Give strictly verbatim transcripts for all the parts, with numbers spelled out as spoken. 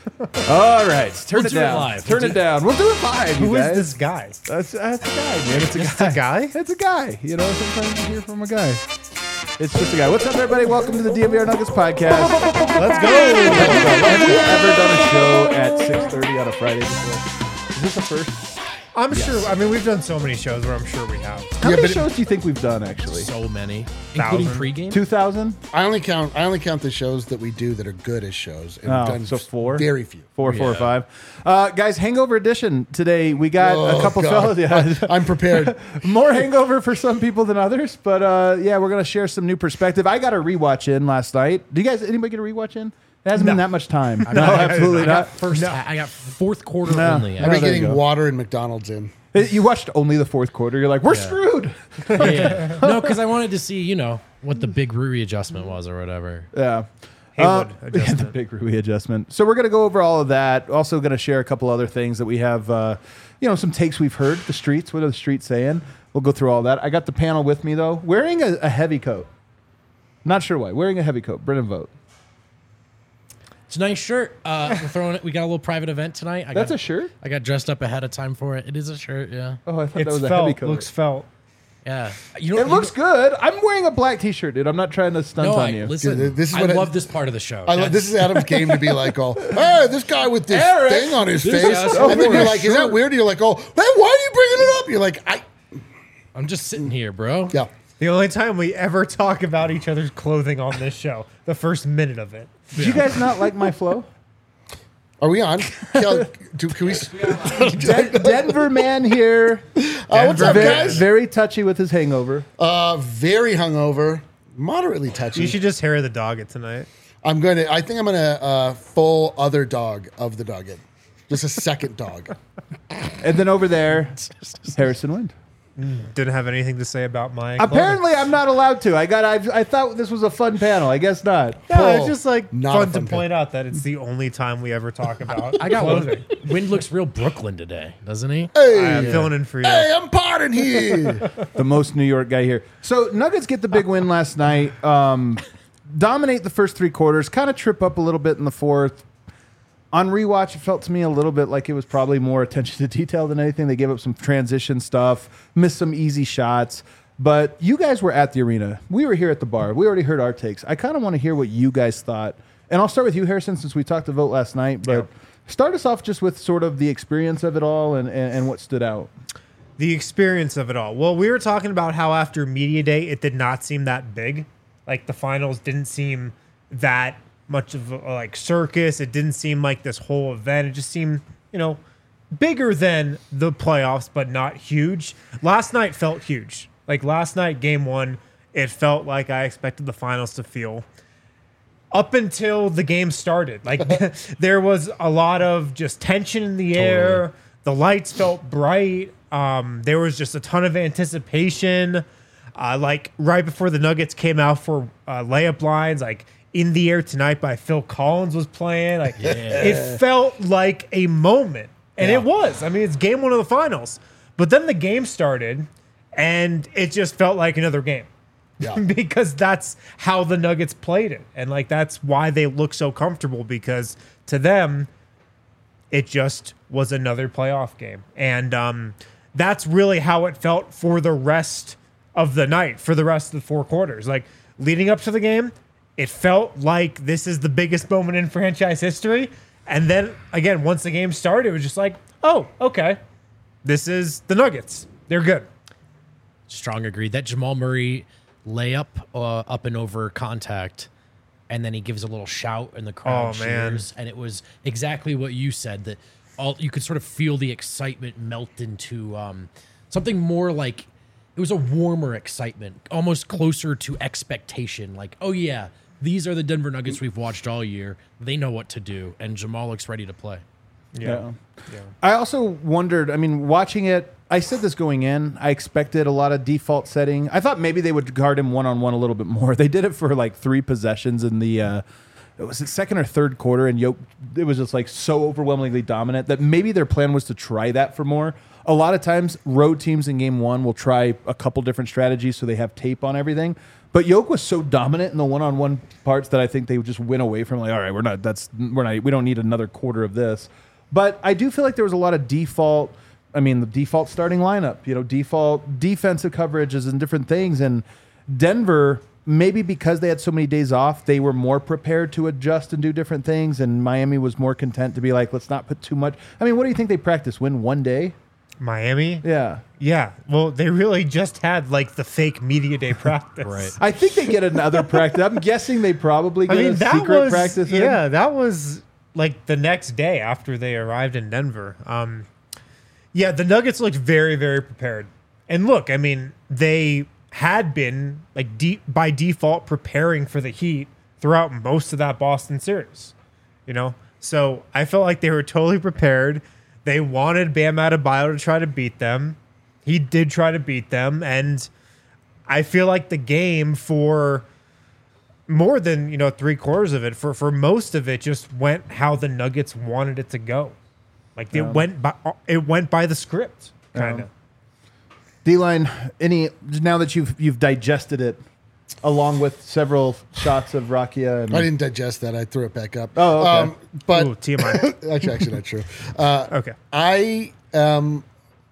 All right, turn We'll it do it down. live. Turn We'll it do- down. We'll do it live. Who you is guys. this guy? That's, that's a guy, man. It's a Just guy. a guy? It's a guy. You know, sometimes you hear from a guy. It's just a guy. What's up, everybody? Welcome to the D M V R Nuggets podcast. Let's go. Have we ever done a show at six thirty on a Friday before? Is this the first? I'm sure. I mean, we've done so many shows where I'm sure we have. How Yeah, many but it- shows do you think we've done, actually? So many, including Thousand. pregame. two thousand? I only count. I only count the shows that we do that are good as shows. And Oh, we've done so four? Very few. Four, four, or Yeah. five. Uh, guys, Hangover Edition today. We got a Oh, couple God. fellas. Yeah. I'm prepared. More hangover for some people than others, but uh, yeah, we're gonna share some new perspective. I got a rewatch in last night. Do you guys? Anybody get a rewatch in? It hasn't been No. that much time. No, not. absolutely I got not. first. I got fourth quarter No. only. Oh, I've been there you getting go. water and McDonald's in. You watched only the fourth quarter. You're like, we're Yeah. screwed. Yeah, yeah. No, because I wanted to see, you know, what the big Rui adjustment was or whatever. Yeah. Haywood Uh, yeah, the adjustment. big Rui adjustment. So we're going to go over all of that. Also going to share a couple other things that we have, uh, you know, some takes we've heard, the streets. What are the streets saying? We'll go through all that. I got the panel with me, though, wearing a, a heavy coat. Not sure why. Wearing a heavy coat. Brennan Vogt. It's a nice shirt. Uh, we're throwing it. We got a little private event tonight. I That's got, a shirt? I got dressed up ahead of time for it. It is a shirt. Yeah. Oh, I thought It's that was a heavy felt. coat. Looks felt. Yeah. You know, It you looks know- good. I'm wearing a black T-shirt, dude. I'm not trying to stunt No, on I, you. listen. Dude, this is I what I- love this part of the show. I love, this is Adam's game to be like, oh, hey, this guy with this Eric, thing on his this face. guy's And then over you're his like, is that shirt. weird? And you're like, oh, hey, why are you bringing it up? You're like, I, I'm just sitting here, bro. yeah. The only time we ever talk about each other's clothing on this show, the first minute of it. Do you guys not like my flow? Are we on? Can, do, can we? Den- Denver man here. Uh, what's up, Very, guys? very touchy with his hangover. Uh, very hungover, moderately touchy. You should just hair the dog it tonight. I'm going to, I think I'm going to uh, full other dog of the dog in. Just a second dog. And then over there, Harrison Wind. Didn't have anything to say about my. Apparently, I'm not allowed to. I got. I, I thought this was a fun panel. I guess not. Yeah, Paul, it's just like not a fun to fun point out that it's the only time we ever talk about. I got one. clothing. Wind looks real Brooklyn today, doesn't he? Hey, I'm filling in for you. hey, I'm potting here. The most New York guy here. So Nuggets get the big win last night. Um, dominate the first three quarters. Kind of trip up a little bit in the fourth. On rewatch, it felt to me a little bit like it was probably more attention to detail than anything. They gave up some transition stuff, missed some easy shots. But you guys were at the arena. We were here at the bar. We already heard our takes. I kind of want to hear what you guys thought. And I'll start with you, Harrison, since we talked to Vote last night. But Yeah. start us off just with sort of the experience of it all and, and, and what stood out. The experience of it all. Well, we were talking about how after media day, it did not seem that big. Like the finals didn't seem that much of a like circus. It didn't seem like this whole event. It just seemed, you know, bigger than the playoffs, but not huge. Last night felt huge. Like last night, game one, it felt like I expected the finals to feel. Up until the game started, like there was a lot of just tension in the air. The lights felt bright. Um, there was just a ton of anticipation. Uh, like right before the Nuggets came out for uh, layup lines, like "In the Air Tonight" by Phil Collins was playing. Like it felt like a moment, and Yeah. it was. I mean, it's game one of the finals. But then the game started, and it just felt like another game. Yeah. Because that's how the Nuggets played it. And like that's why they look so comfortable, because to them it just was another playoff game. And um, that's really how it felt for the rest of the night, for the rest of the four quarters. Like leading up to the game, it felt like this is the biggest moment in franchise history. And then again, once the game started, it was just like, oh, okay, this is the Nuggets. They're good. Strong agreed. That Jamal Murray layup uh, up and over contact, and then he gives a little shout and the crowd Oh, man. cheers. And it was exactly what you said, that all you could sort of feel the excitement melt into um, something more like it was a warmer excitement, almost closer to expectation. Like, oh yeah, these are the Denver Nuggets we've watched all year. They know what to do, and Jamal looks ready to play. Yeah. Yeah. I also wondered, I mean, watching it, I said this going in, I expected a lot of default setting. I thought maybe they would guard him one-on-one a little bit more. They did it for like three possessions in the uh, it was the second or third quarter, and Yoke, it was just like so overwhelmingly dominant that maybe their plan was to try that for more. A lot of times, road teams in game one will try a couple different strategies so they have tape on everything. But Yoke was so dominant in the one-on-one parts that I think they would just win away from like, all right, we're not, that's, we're not, we don't need another quarter of this. But I do feel like there was a lot of default, I mean, the default starting lineup, you know, default defensive coverages and different things. And Denver, maybe because they had so many days off, they were more prepared to adjust and do different things. And Miami was more content to be like, let's not put too much. I mean, what do you think they practiced? Win one day? Miami? Yeah. Yeah. Well, they really just had like the fake media day practice. Right. I think they get another practice. I'm guessing they probably get I mean, a that secret was practice. in. yeah, that was like the next day after they arrived in Denver. Um, yeah, the Nuggets looked very, very prepared. And look, I mean, they had been like de- by default preparing for the Heat throughout most of that Boston series. You know, so I felt like they were totally prepared. They wanted Bam Adebayo to try to beat them. He did try to beat them, and I feel like the game for more than, you know, three quarters of it, for, for most of it, just went how the Nuggets wanted it to go. Like Yeah. it went by it went by the script, kind of. D-line, any now that you've you've digested it, along with several shots of Rakia. And, I didn't digest that. I threw it back up. Oh, okay. Um, but Ooh, T M I. that's actually not true. Uh, Okay. I um,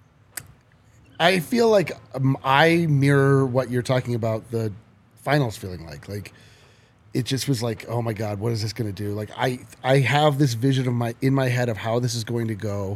I feel like um, I mirror what you're talking about. The finals feeling like like it just was like, oh my god, what is this going to do? Like I I have this vision of my in my head of how this is going to go.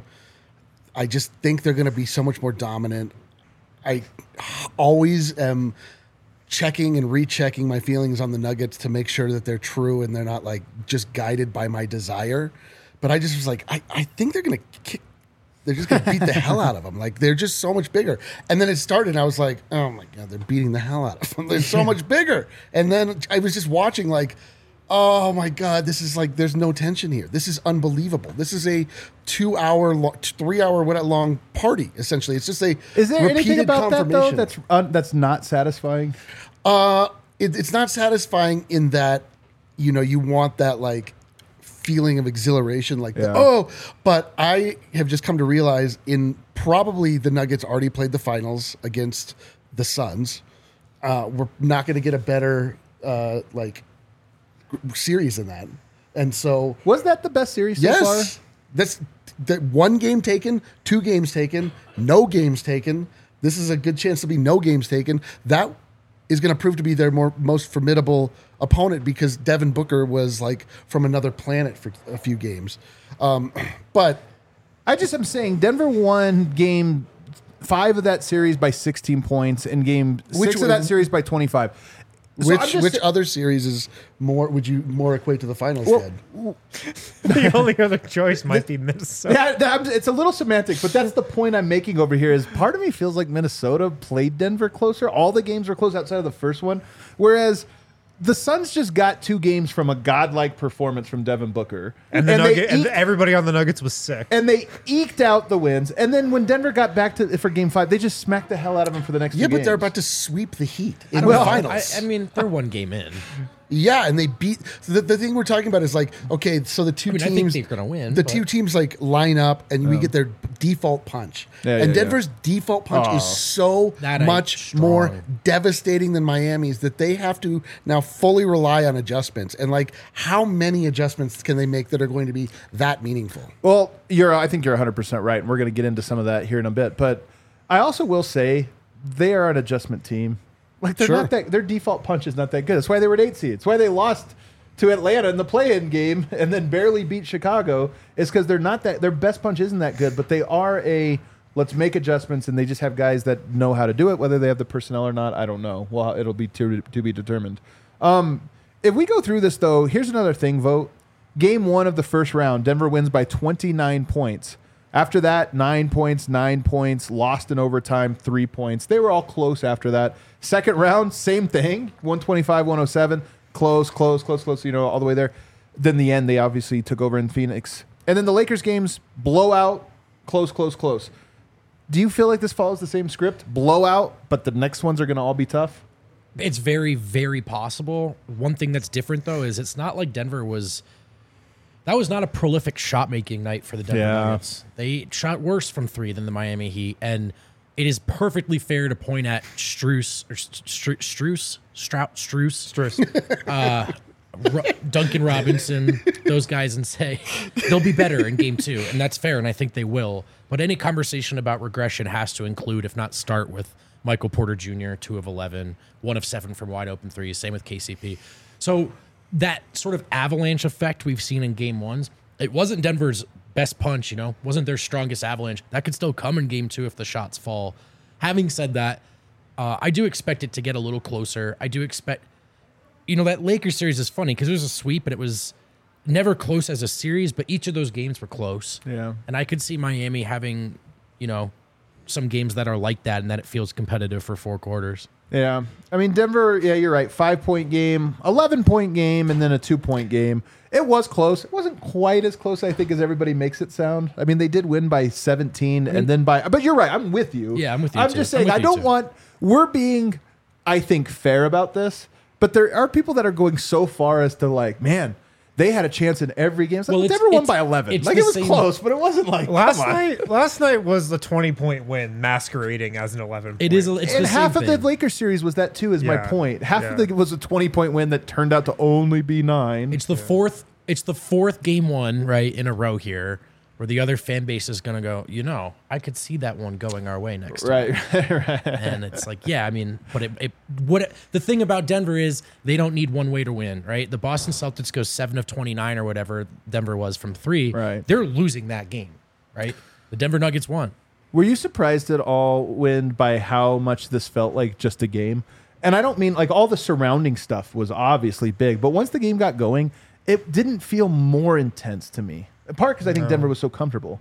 I just think they're going to be so much more dominant. I always am checking and rechecking my feelings on the Nuggets to make sure that they're true and they're not like just guided by my desire. But I just was like, I, I think they're going to kick. They're just going to beat the hell out of them. Like they're just so much bigger. And then it started and I was like, oh my God, they're beating the hell out of them. They're so much bigger. And then I was just watching like, oh my God, this is like, there's no tension here. This is unbelievable. This is a two hour, lo- three hour, what long party, essentially. It's just a is there anything repeated about that though confirmation. that's uh, that's not satisfying? Uh, it, it's not satisfying in that, you know, you want that like feeling of exhilaration, like, Yeah. the, oh, but I have just come to realize in probably the Nuggets already played the finals against the Suns. Uh, we're not going to get a better, uh, like, series than that. And so, Was that the best series so yes, far? that's that one game taken, two games taken, no games taken. This is a good chance to be no games taken. That is going to prove to be their more most formidable opponent because Devin Booker was like from another planet for a few games. Um, but I just am saying Denver won game five of that series by sixteen points and game Which six of that one- series by twenty-five. So I'm which just- which other series is more would you more equate to the finals? Well, Ted? The only other choice might be Minnesota. Yeah, that- it's a little semantic, but that's the point I'm making over here. Is part of me feels like Minnesota played Denver closer. All the games were close outside of the first one, whereas the Suns just got two games from a godlike performance from Devin Booker, And, the they Nugget, and eked- everybody on the Nuggets was sick. and they eked out the wins. And then when Denver got back to for Game Five, they just smacked the hell out of them for the next. Yeah, two but they're games. about to sweep the Heat I in don't the know. finals. I, I mean, they're one game in. Yeah, and they beat so the, the thing we're talking about is like, okay, so the two I mean, I think teams they're gonna win, The but- two teams like line up and we get their default punch. Yeah, and yeah, Denver's default punch Oh. is so That ain't much strong. more devastating than Miami's that they have to now fully rely on adjustments. And like how many adjustments can they make that are going to be that meaningful? Well, you're. I think you're one hundred percent right, and we're going to get into some of that here in a bit. But I also will say they are an adjustment team. Like they're Sure. not that. Their default punch is not that good. That's why they were an eight seed. It's why they lost to Atlanta in the play-in game and then barely beat Chicago. Is because they're not that. Their best punch isn't that good, but they are a. Let's make adjustments, and they just have guys that know how to do it. Whether they have the personnel or not, I don't know. Well, it'll be to, to be determined. Um, if we go through this, though, here's another thing, Vote. Game one of the first round, Denver wins by twenty-nine points. After that, nine points, nine points, lost in overtime, three points. They were all close after that. Second round, same thing, one twenty-five, one oh seven, close, close, close, close, you know, all the way there. Then the end, they obviously took over in Phoenix. And then the Lakers games, blowout, close, close, close. Do you feel like this follows the same script? Blowout, but the next ones are going to all be tough? It's very, very possible. One thing that's different, though, is it's not like Denver was... That was not a prolific shot-making night for the Denver Yeah. Nuggets. They shot worse from three than the Miami Heat, and it is perfectly fair to point at Strus, or Stru- Strus, Strout, Strus, Strus. Ro- Duncan Robinson, those guys, and say they'll be better in game two, and that's fair, and I think they will. But any conversation about regression has to include, if not start with, Michael Porter Junior, two of eleven, one of seven from wide open threes, same with K C P. So that sort of avalanche effect we've seen in game ones, it wasn't Denver's best punch, you know, wasn't their strongest avalanche. That could still come in game two if the shots fall. Having said that, uh, I do expect it to get a little closer. I do expect, you know, that Lakers series is funny because it was a sweep and it was never close as a series, but each of those games were close. Yeah. And I could see Miami having, you know, some games that are like that and that it feels competitive for four quarters. Yeah. I mean, Denver, yeah, you're right. Five-point game, eleven-point game, and then a two-point game. It was close. It wasn't quite as close, I think, as everybody makes it sound. I mean, they did win by seventeen, and then by... But you're right. I'm with you. Yeah, I'm with you, I'm too. just I'm saying, with I you, don't too. want... We're being, I think, fair about this, but there are people that are going so far as to, like, man... They had a chance in every game. It's like, Well, it's- Denver won it's- by eleven. it's Like, the it was same- close, but it wasn't like, Last come on. night, last night was the twenty-point win masquerading as an eleven. It is. It's And the half same of the thing. Lakers series was that too. Is my Yeah. point. Half Yeah. of it was a twenty-point win that turned out to only be nine. It's the fourth. It's the fourth game one right in a row here, where the other fan base is going to go. You know, I could see that one going our way next time. right, right. And it's like, yeah, I mean, but it, it what it, the thing about Denver is they don't need one way to win, right? The Boston Celtics go seven of twenty-nine or whatever Denver was from three. Right. They're losing that game, right? The Denver Nuggets won. Were you surprised at all, Win, by how much this felt like just a game? And I don't mean like all the surrounding stuff was obviously big, but once the game got going, it didn't feel more intense to me. In part because I think Denver was so comfortable.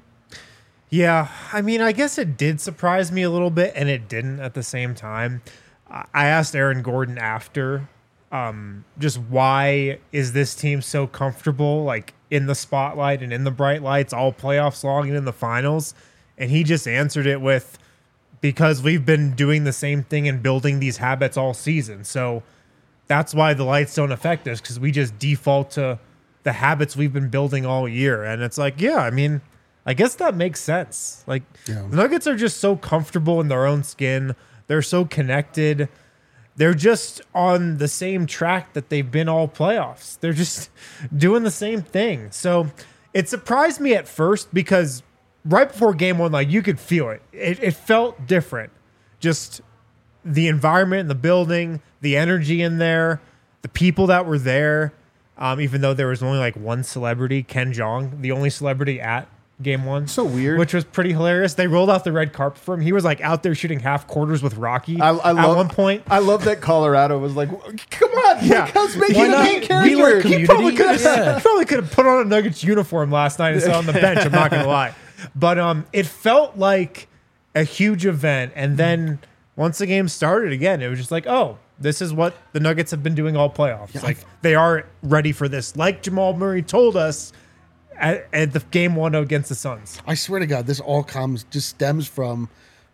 Yeah, I mean, I guess it did surprise me a little bit, and it didn't at the same time. I I asked Aaron Gordon after, um, just why is this team so comfortable, like in the spotlight and in the bright lights, all playoffs long and in the finals, and he just answered it with, because we've been doing the same thing and building these habits all season, so that's why the lights don't affect us, because we just default to the habits we've been building all year, and it's like, yeah, I mean. I guess that makes sense. Like, Yeah. the Nuggets are just so comfortable in their own skin. They're so connected. They're just on the same track that they've been all playoffs. They're just doing the same thing. So it surprised me at first because right before game one, like, you could feel it. It, it felt different. Just the environment in the building, the energy in there, the people that were there. Um, even though there was only like one celebrity, Ken Jeong, the only celebrity at game one. So weird. Which was pretty hilarious. They rolled out the red carpet for him. He was like out there shooting half quarters with Rocky I, I at love, one point. I love that Colorado was like, come on, Yeah. like, let's make Why it a not? main We character. like He community. probably could have Yeah. He probably could have put on a Nuggets uniform last night and sat on the bench. I'm not gonna lie, but um, it felt like a huge event. And then once the game started again, it was just like, oh, this is what the Nuggets have been doing all playoffs. Like, they are ready for this. Like Jamal Murray told us at, at the game one against the Suns. I swear to God, this all comes just stems from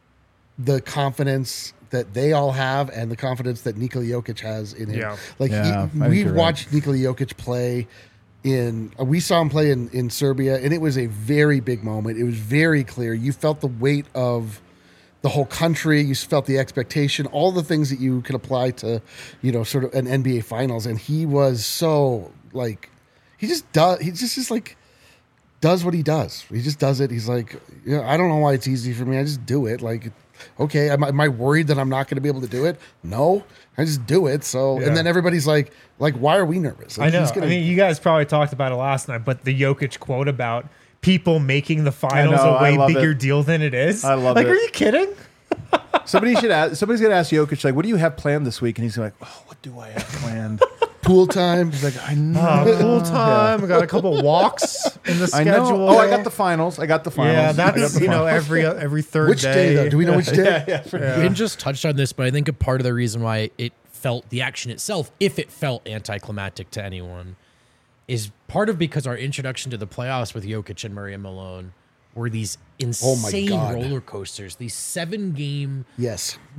the confidence that they all have and the confidence that Nikola Jokic has in him. Yeah. Like Yeah, he, I think we you're right. watched Nikola Jokic play in. uh, We saw him play in in Serbia, and it was a very big moment. It was very clear. You felt the weight of the whole country. You felt the expectation, all the things that you could apply to, you know, sort of an N B A Finals. And he was so like, he just does. He just is like. does what he does. He just does it. He's like, yeah, I don't know why it's easy for me. I just do it. Like, okay, am I, am I worried that I'm not going to be able to do it? No, I just do it. So, Yeah. and then everybody's like, like, why are we nervous? Like, I know. he's gonna- I mean, you guys probably talked about it last night, but the Jokic quote about people making the finals know, a I way love bigger it. deal than it is. I love like, it. are you kidding? Somebody should ask. Somebody's gonna ask Jokic like, "What do you have planned this week?" And he's like, "Oh, what do I have planned?" pool time. He's like, "I know, Uh, full time. I got a couple walks in the I schedule. know. Oh, I got the finals. I got the finals. Yeah, I got that's the you know finals. every uh, every third Which day, though? Do we know which day? yeah, for- Ben just touched on this, but I think a part of the reason why it felt the action itself, if it felt anticlimactic to anyone, is part of because our introduction to the playoffs with Jokic and Murray and Malone were these Oh my insane God. roller coasters, these seven game Yes. like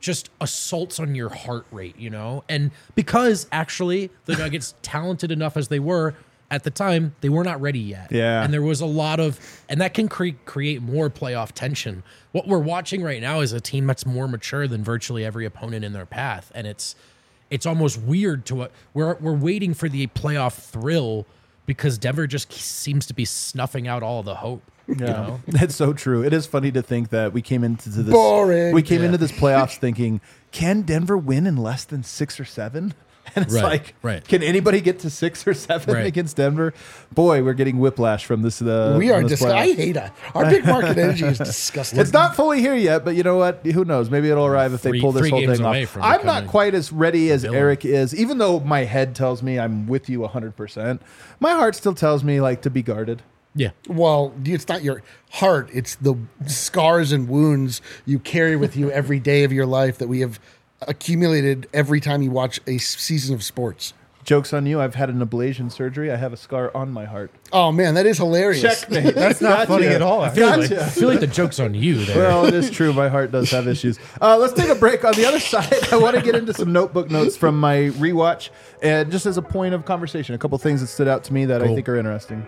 just assaults on your heart rate, you know? And because actually the Nuggets, talented enough as they were at the time, they were not ready yet. Yeah. And there was a lot of, and that can cre- create more playoff tension. What we're watching right now is a team that's more mature than virtually every opponent in their path. And it's, it's almost weird to what we're, we're waiting for the playoff thrill because Denver just seems to be snuffing out all the hope. Yeah, You know? that's so true. It is funny to think that we came into this Boring. We came Yeah. into this playoffs thinking, can Denver win in less than six or seven? And it's Right, like, right. can anybody get to six or seven Right. against Denver? Boy, we're getting whiplash from this. Uh, we are on this dis- I playoff. hate it. Our big market energy is disgusting. It's not fully here yet, but you know what? Who knows? Maybe it'll arrive if they Three- pull this three whole games thing away off. from I'm not becoming quite as ready as villain. Eric is, even though my head tells me I'm with you one hundred percent. My heart still tells me like to be guarded. Yeah. Well, it's not your heart. It's the scars and wounds you carry with you every day of your life that we have accumulated every time you watch a season of sports. Joke's on you. I've had an ablation surgery. I have a scar on my heart. Oh, man, that is hilarious. Checkmate. That's not funny at all. I feel, like, Gotcha. I feel like the joke's on you there. Well, it is true. My heart does have issues. Uh, let's take a break. On the other side, I want to get into some notebook notes from my rewatch, and just as a point of conversation, a couple things that stood out to me that I Cool. think are interesting.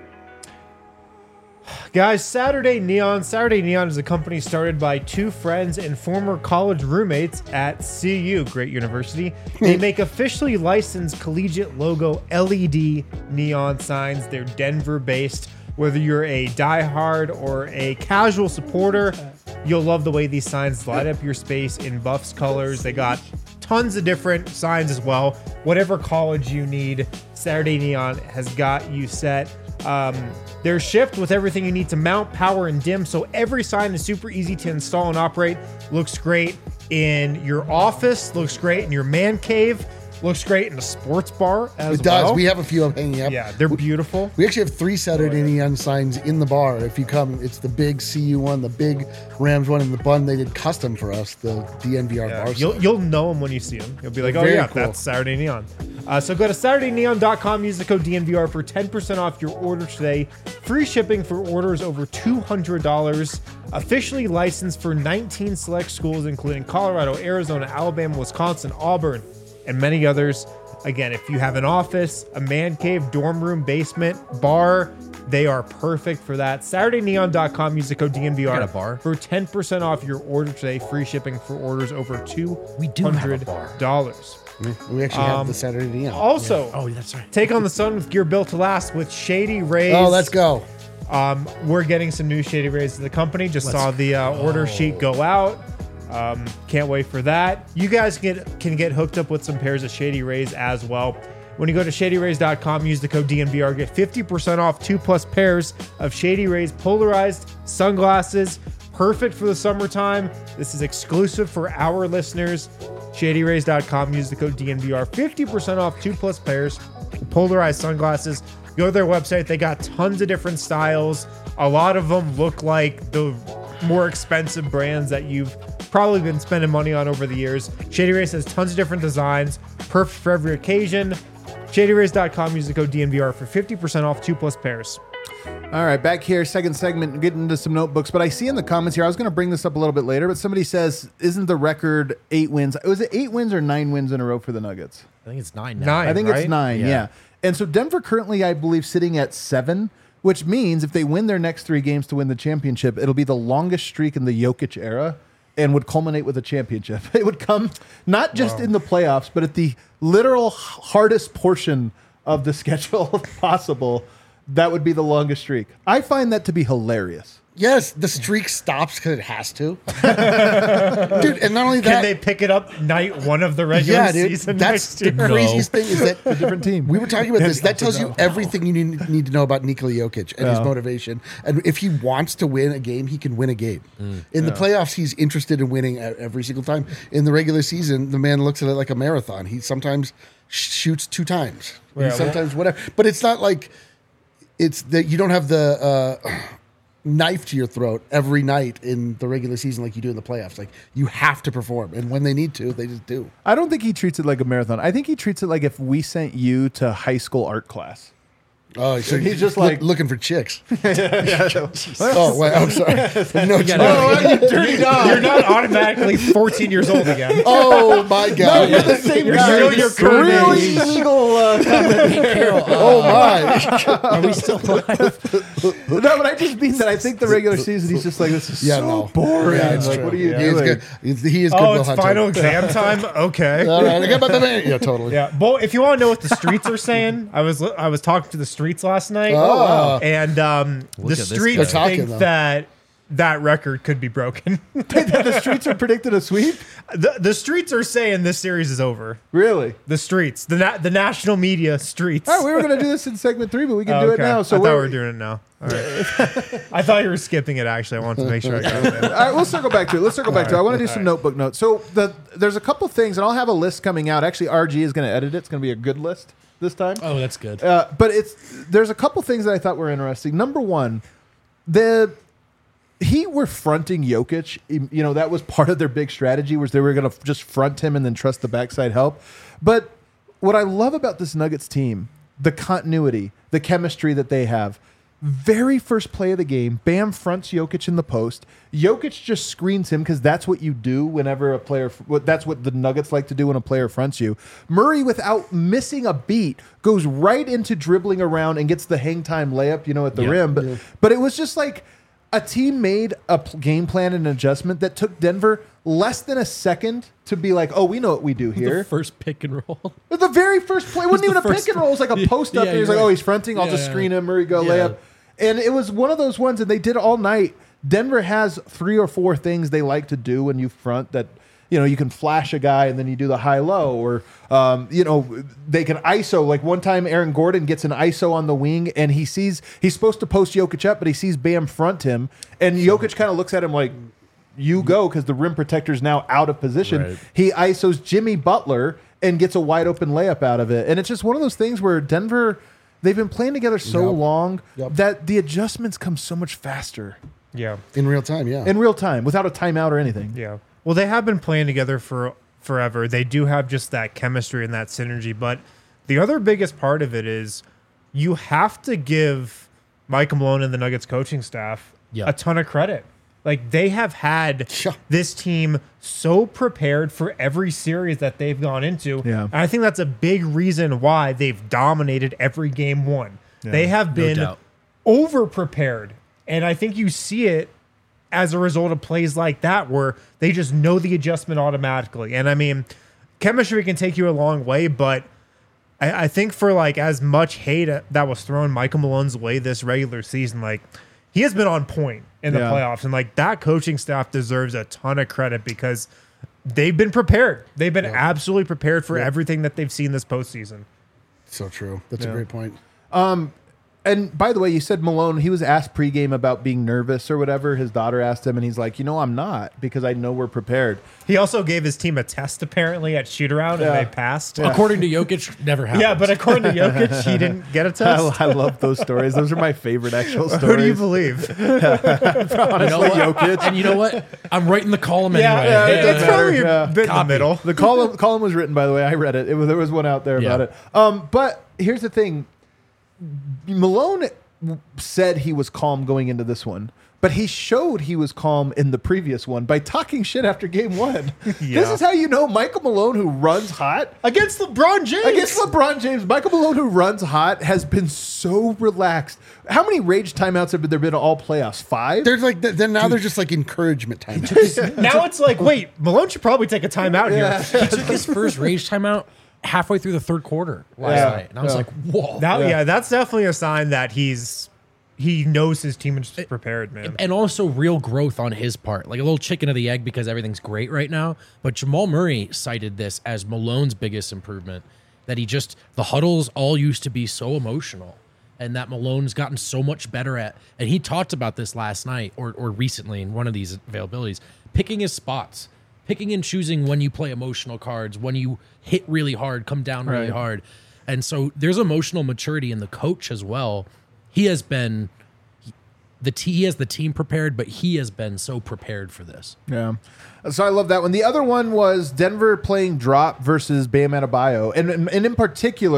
Guys, Saturday Neon. Saturday Neon is a company started by two friends and former college roommates at C U, great university. They make officially licensed collegiate logo L E D neon signs. They're Denver based. Whether you're a diehard or a casual supporter, you'll love the way these signs light up your space in Buffs colors. They got tons of different signs as well. Whatever college you need, Saturday Neon has got you set. Um, they're shipped with everything you need to mount, power, and dim, so every sign is super easy to install and operate. Looks great in your office, looks great in your man cave, looks great in a sports bar as It does. well. We have a few of hanging up. yeah, they're beautiful. We actually have three Saturday Neon signs in the bar. If you come, it's the big C U one, the big Rams one, and the bun they did custom for us, the D N V R Yeah, bar. you'll sign. you'll know them when you see them. You'll be like, oh Very yeah, cool. that's Saturday Neon. Uh, so go to Saturday Neon dot com, use the code D N V R for ten percent off your order today. Free shipping for orders over two hundred dollars. Officially licensed for nineteen select schools, including Colorado, Arizona, Alabama, Wisconsin, Auburn, and many others. Again, if you have an office, a man cave, dorm room, basement, bar, they are perfect for that. Saturday Neon dot com, use the code D N V R Got a bar? for ten percent off your order today. Free shipping for orders over two We do have a hundred bar. dollars. We actually have Um, the Saturday Neon. Also, Oh, that's right. take on the sun with gear built to last with Shady Rays. Oh, let's go. Um, we're getting some new Shady Rays to the company. Just Let's saw the uh, order sheet go out. Um, can't wait for that. You guys get can get hooked up with some pairs of Shady Rays as well. When you go to Shady Rays dot com, use the code D N V R, get fifty percent off two plus pairs of Shady Rays polarized sunglasses. Perfect for the summertime. This is exclusive for our listeners. Shady Rays dot com, use the code D N V R, fifty percent off two plus pairs of polarized sunglasses. Go to their website. They got tons of different styles. A lot of them look like the more expensive brands that you've probably been spending money on over the years. Shady Rays has tons of different designs, perfect for every occasion. Shady Rays dot com, use the code D N V R for fifty percent off two plus pairs. All right, back here, second segment, getting into some notebooks. But I see in the comments here, I was going to bring this up a little bit later, but somebody says, isn't the record eight wins? Was it eight wins or nine wins in a row for the Nuggets? I think it's nine now. Nine. I think right? it's nine, yeah. Yeah. And so Denver currently, I believe, sitting at seven, which means if they win their next three games to win the championship, it'll be the longest streak in the Jokic era and would culminate with a championship. It would come not just in the playoffs, but at the literal hardest portion of the schedule possible. That would be the longest streak. I find that to be hilarious. Yes, the streak stops because it has to. Dude, and not only Can that, they pick it up night one of the regular yeah, dude, season that's next the year? craziest thing is that A different team. we were talking about this. That tells you everything you need, need to know about Nikola Jokic and his Yeah. motivation. And if he wants to win a game, he can win a game. In the playoffs, he's interested in winning e- every single time. In the regular season, the man looks at it like a marathon. He sometimes sh- shoots two times. He Yeah, well- sometimes whatever. But it's not like it's that you don't have the uh, knife to your throat every night in the regular season like you do in the playoffs. Like you have to perform, and when they need to, they just do. I don't think he treats it like a marathon. I think he treats it like if we sent you to high school art class. Oh, so he's just look- like- looking for chicks. yeah. Oh, wait, I'm sorry. No, gotta- oh, you dirty dog. You're not automatically fourteen years old again. oh my God. You're the same You're guy. still your current really age. single. Uh, Carol, uh, Oh my. are we still alive? no, but I just mean that I think the regular season he's just like, this is Yeah, so no. boring. Yeah, it's like, true. what are you He is doing? good. He's- He is good. Oh, Will it's Hunter. final exam time. Okay. All right, I got about the man. Yeah, totally. Yeah, well, if you want to know what the streets are saying, I was I was talking to the streets last night, Oh, wow. and um, the at this streets guy. They're talking, think though. that that record could be broken. The streets are predicted a sweep? the The streets are saying this series is over. Really? The streets, the na- the national media streets. Oh, we were going to do this in segment three, but we can Oh, do it okay. now. So I thought we're, we were doing it now. All right. I thought you were skipping it. Actually, I wanted to make sure I got it. All right, we'll circle back to it. Let's circle back to it. I want to do some notebook notes. So the there's a couple things, and I'll have a list coming out. Actually, R G is going to edit it. It's going to be a good list this time. Oh, that's good. Uh, but it's there's a couple things that I thought were interesting. Number one, the Heat were fronting Jokic. You know, that was part of their big strategy, was they were going to just front him and then trust the backside help. But what I love about this Nuggets team, the continuity, the chemistry that they have. Very first play of the game, Bam fronts Jokic in the post. Jokic just screens him because that's what you do whenever a player. That's what the Nuggets like to do when a player fronts you. Murray, without missing a beat, goes right into dribbling around and gets the hang time layup, you know, at the Yeah. rim. But but it was just like a team made a p- game plan and adjustment that took Denver less than a second to be like, oh, we know what we do here. The first pick and roll. The very first play wasn't the even a first pick and roll. It was like a Yeah, post up. yeah, and he's you're like, oh, right. he's fronting. I'll Yeah, just yeah. screen him. Murray go Yeah. layup. And it was one of those ones that they did all night. Denver has three or four things they like to do when you front that, you know, you can flash a guy and then you do the high low, or, um, you know, they can I S O. Like one time Aaron Gordon gets an I S O on the wing and he sees, he's supposed to post Jokic up, but he sees Bam front him. And Jokic kind of looks at him like, you go, because the rim protector's now out of position. Right. He I S Os Jimmy Butler and gets a wide open layup out of it. And it's just one of those things where Denver, they've been playing together so Yep. long Yep. that the adjustments come so much faster Yeah. In real time, yeah. in real time without a timeout or anything. Yeah. Well, they have been playing together for forever. They do have just that chemistry and that synergy. But the other biggest part of it is you have to give Mike Malone and the Nuggets coaching staff Yeah. a ton of credit. Like, they have had Yeah. this team so prepared for every series that they've gone into. Yeah. And I think that's a big reason why they've dominated every game one. They have been doubt. over prepared. And I think you see it as a result of plays like that where they just know the adjustment automatically. And I mean, chemistry can take you a long way, but I, I think for like as much hate that was thrown Michael Malone's way this regular season, like he has been on point in the Yeah. playoffs. And like that coaching staff deserves a ton of credit because they've been prepared. They've been absolutely prepared for everything that they've seen this postseason. So true. That's Yeah. a great point. And by the way, you said Malone, he was asked pregame about being nervous or whatever. His daughter asked him, and he's like, you know, I'm not, because I know we're prepared. He also gave his team a test apparently at shoot around Yeah. and they passed. According to Jokic, never happened. Yeah, but according to Jokic, he didn't get a test. I, I love those stories. Those are my favorite actual stories. Who do you believe? you know what? Jokic. And you know what? I'm writing the column Yeah, anyway. yeah, it it's doesn't probably matter. a Yeah. bit in the Copy. middle. The column column was written, by the way. I read it. It was, there was one out there Yeah. about it. Um, but here's the thing: Malone said he was calm going into this one, but he showed he was calm in the previous one by talking shit after game one. This Yeah. is how you know Michael Malone, who runs hot Against LeBron James. against LeBron James. Michael Malone, who runs hot, has been so relaxed. How many rage timeouts have there been all playoffs? Five. There's like then now there's just like encouragement time. Now it's like, wait, Malone should probably take a timeout here. He took his first rage timeout halfway through the third quarter last Yeah. night. And I was Yeah. like, whoa. Now, Yeah. yeah. that's definitely a sign that he's he knows his team is prepared, man. And also real growth on his part, like a little chicken of the egg because everything's great right now. But Jamal Murray cited this as Malone's biggest improvement, that he just, the huddles all used to be so emotional and that Malone's gotten so much better at. And he talked about this last night or, or recently in one of these availabilities, picking his spots, picking and choosing when you play emotional cards, when you hit really hard, come down really Right. hard. And so there's emotional maturity in the coach as well. He has been the t- he has the team prepared, but he has been so prepared for this. Yeah. So I love that one. The other one was Denver playing drop versus Bam Adebayo. And, and in particular,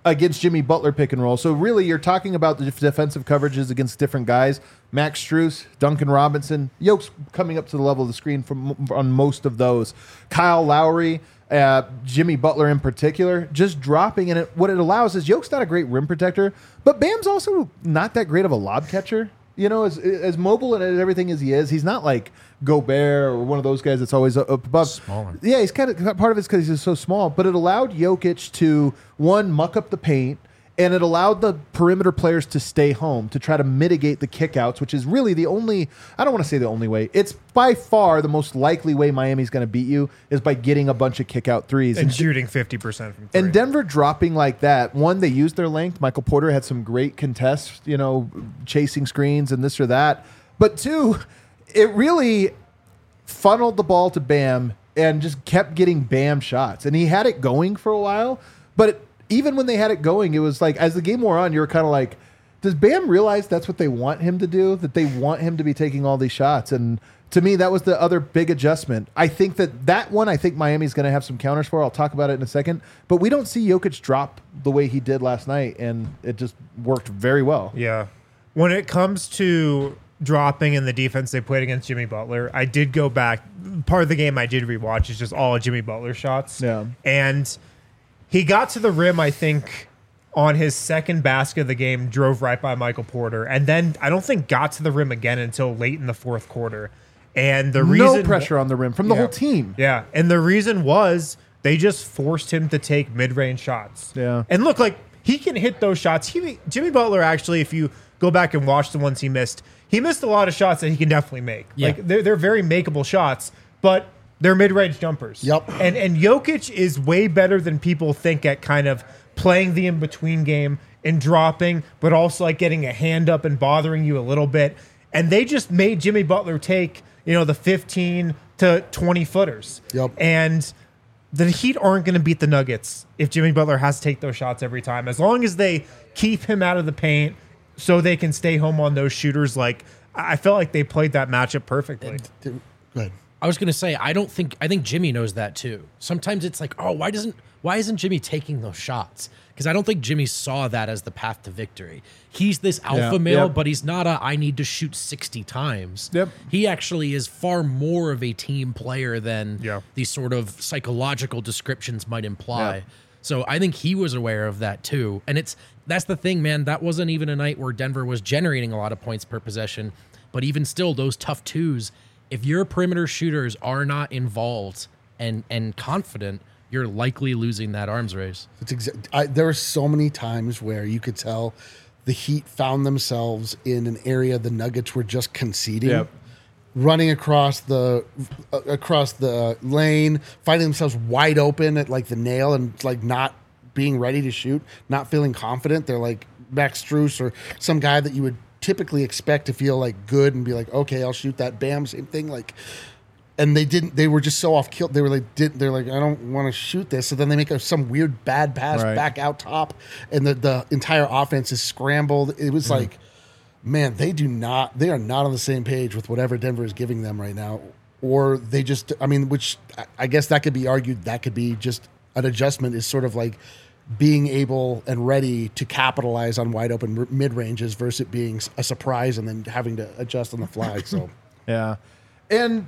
against Jimmy Butler pick and roll. So really, you're talking about the defensive coverages against different guys. Max Strus, Duncan Robinson, Yoke's coming up to the level of the screen from on most of those. Kyle Lowry, uh, Jimmy Butler in particular, just dropping. And it, what it allows is Yoke's not a great rim protector, but Bam's also not that great of a lob catcher. You know, as as mobile and as everything as he is, he's not like Gobert or one of those guys that's always up above. Smaller. Yeah, he's kind of part of it's because he's so small, but it allowed Jokic to one muck up the paint, and it allowed the perimeter players to stay home to try to mitigate the kickouts, which is really the only. I don't want to say the only way. It's by far the most likely way Miami's going to beat you is by getting a bunch of kickout threes and, and shooting fifty percent from three. And Denver dropping like that. One, they used their length. Michael Porter had some great contests, you know, chasing screens and this or that. But two, it really funneled the ball to Bam and just kept getting Bam shots. And he had it going for a while. But it, even when they had it going, it was like, as the game wore on, you were kind of like, does Bam realize that's what they want him to do? That they want him to be taking all these shots? And to me, that was the other big adjustment. I think that that one, I think Miami's going to have some counters for. I'll talk about it in a second. But we don't see Jokic drop the way he did last night, and it just worked very well. Yeah. When it comes to dropping in the defense they played against Jimmy Butler, I did go back. Part of the game I did rewatch is just all of Jimmy Butler shots. Yeah. And he got to the rim, I think, on his second basket of the game, drove right by Michael Porter, and then I don't think got to the rim again until late in the fourth quarter. And the reason No pressure on the rim from the Yeah. whole team. Yeah, and the reason was they just forced him to take mid-range shots. Yeah. And look, like, he can hit those shots. He, Jimmy Butler, actually, if you go back and watch the ones he missed, he missed a lot of shots that he can definitely make. Yeah. Like, they're, they're very makeable shots, but they're mid-range jumpers. Yep. And, and Jokic is way better than people think at kind of playing the in-between game and dropping, but also, like, getting a hand up and bothering you a little bit. And they just made Jimmy Butler take, you know, the fifteen to twenty footers. Yep. And the Heat aren't going to beat the Nuggets if Jimmy Butler has to take those shots every time. As long as they keep him out of the paint so they can stay home on those shooters, like, I felt like they played that matchup perfectly. Go ahead. I was going to say, I don't think, I think Jimmy knows that too. Sometimes it's like, oh, why doesn't, why isn't Jimmy taking those shots? Because I don't think Jimmy saw that as the path to victory. He's this alpha Yeah, male, yep. but he's not a, I need to shoot sixty times. Yep. He actually is far more of a team player than Yeah. these sort of psychological descriptions might imply. Yep. So I think he was aware of that too. And it's, that's the thing, man. That wasn't even a night where Denver was generating a lot of points per possession. But even still, those tough twos, if your perimeter shooters are not involved and and confident, you're likely losing that arms race. It's exa- I, there were so many times where you could tell the Heat found themselves in an area the Nuggets were just conceding, Yep. running across the uh, across the lane, finding themselves wide open at like the nail and like not being ready to shoot, not feeling confident. They're like Max Strus or some guy that you would typically expect to feel like good and be like, okay, I'll shoot that. Bam, same thing. Like, and they didn't. They were just so off kill. They were like, did they're like, I don't want to shoot this. So then they make a, some weird bad pass Right. back out top, and the the entire offense is scrambled. It was like, man, they do not. They are not on the same page with whatever Denver is giving them right now, or they just. I mean, which I- I guess that could be argued. That could be just an adjustment. Is sort of like being able and ready to capitalize on wide open mid ranges versus it being a surprise and then having to adjust on the fly. So Yeah. And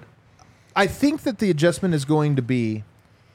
I think that the adjustment is going to be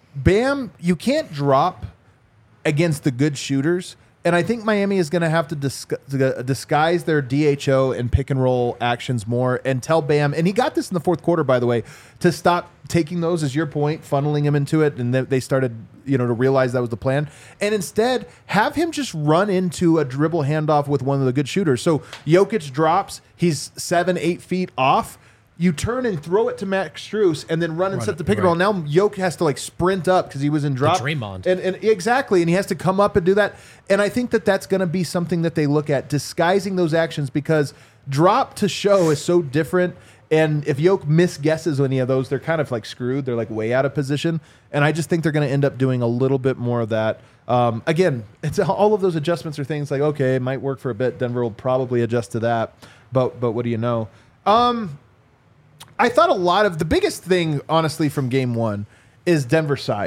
Bam, you can't drop against the good shooters. And I think Miami is going to have to disgu- disguise their D H O and pick and roll actions more and tell Bam, and he got this in the fourth quarter, by the way, to stop taking those, as your point, funneling him into it. And they started, you know, to realize that was the plan. And instead, have him just run into a dribble handoff with one of the good shooters. So Jokic drops, he's seven, eight feet off. You turn and throw it to Max Strus and then run and Run set it, the pick and roll. right. Now Jokic has to like sprint up because he was in drop. Draymond. And, and exactly. And he has to come up and do that. And I think that that's going to be something that they look at, disguising those actions, because drop to show is so different. And if Jokic misguesses any of those, they're kind of like screwed. They're like way out of position. And I just think they're going to end up doing a little bit more of that. Um, again, it's all of those adjustments are things like, okay, it might work for a bit. Denver will probably adjust to that. But, but what do you know? Um, I thought a lot of the biggest thing, honestly, from game one is Denver size.